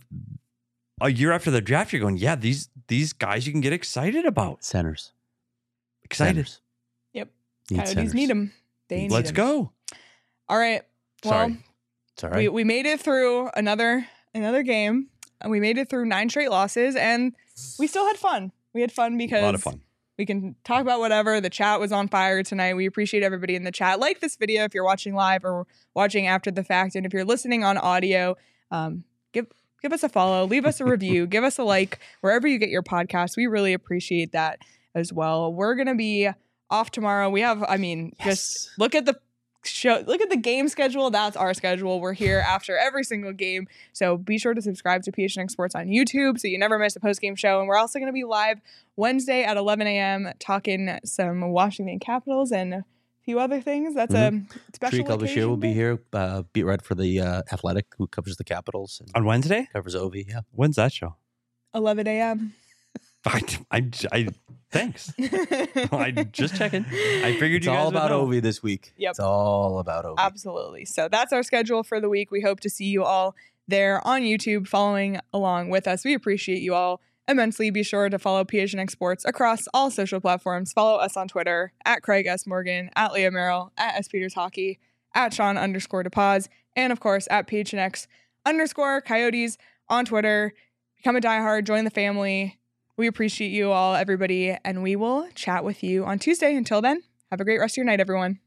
a year after the draft, you're going, yeah, these these guys you can get excited about. Centers. Excited. Centers. Yep. Need Coyotes centers. need him. They need Let's him. go. All right. Well, Sorry. It's all we, right. we made it through another another game, and we made it through nine straight losses, and we still had fun. We had fun because A lot of fun. we can talk about whatever. The chat was on fire tonight. We appreciate everybody in the chat. Like this video if you're watching live or watching after the fact, and if you're listening on audio, um, give give us a follow, leave us a review, give us a like wherever you get your podcast. We really appreciate that as well. We're gonna be off tomorrow. We have, I mean, just Yes. look at the show, look at the game schedule. That's our schedule. We're here after every single game. So be sure to subscribe to P H N X Sports on YouTube so you never miss a post-game show. And we're also going to be live Wednesday at eleven a.m. talking some Washington Capitals and a few other things. That's a special Tree Bashir occasion will be day. here. Uh, beat red for the uh, Athletic, who covers the Capitals and On Wednesday? covers Ovi. Yeah. When's that show? eleven a.m. I, I, I thanks. I just checking. I figured It's you guys all would about know. Ovi this week. Yep. It's all about Ovi. Absolutely. So that's our schedule for the week. We hope to see you all there on YouTube following along with us. We appreciate you all immensely. Be sure to follow P H N X Sports across all social platforms. Follow us on Twitter at Craig S. Morgan, at Leah Merrill, at S. Peters Hockey, at Sean underscore DePaz, and of course at P H N X underscore Coyotes on Twitter. Become a diehard, join the family. We appreciate you all, everybody, and we will chat with you on Tuesday. Until then, have a great rest of your night, everyone.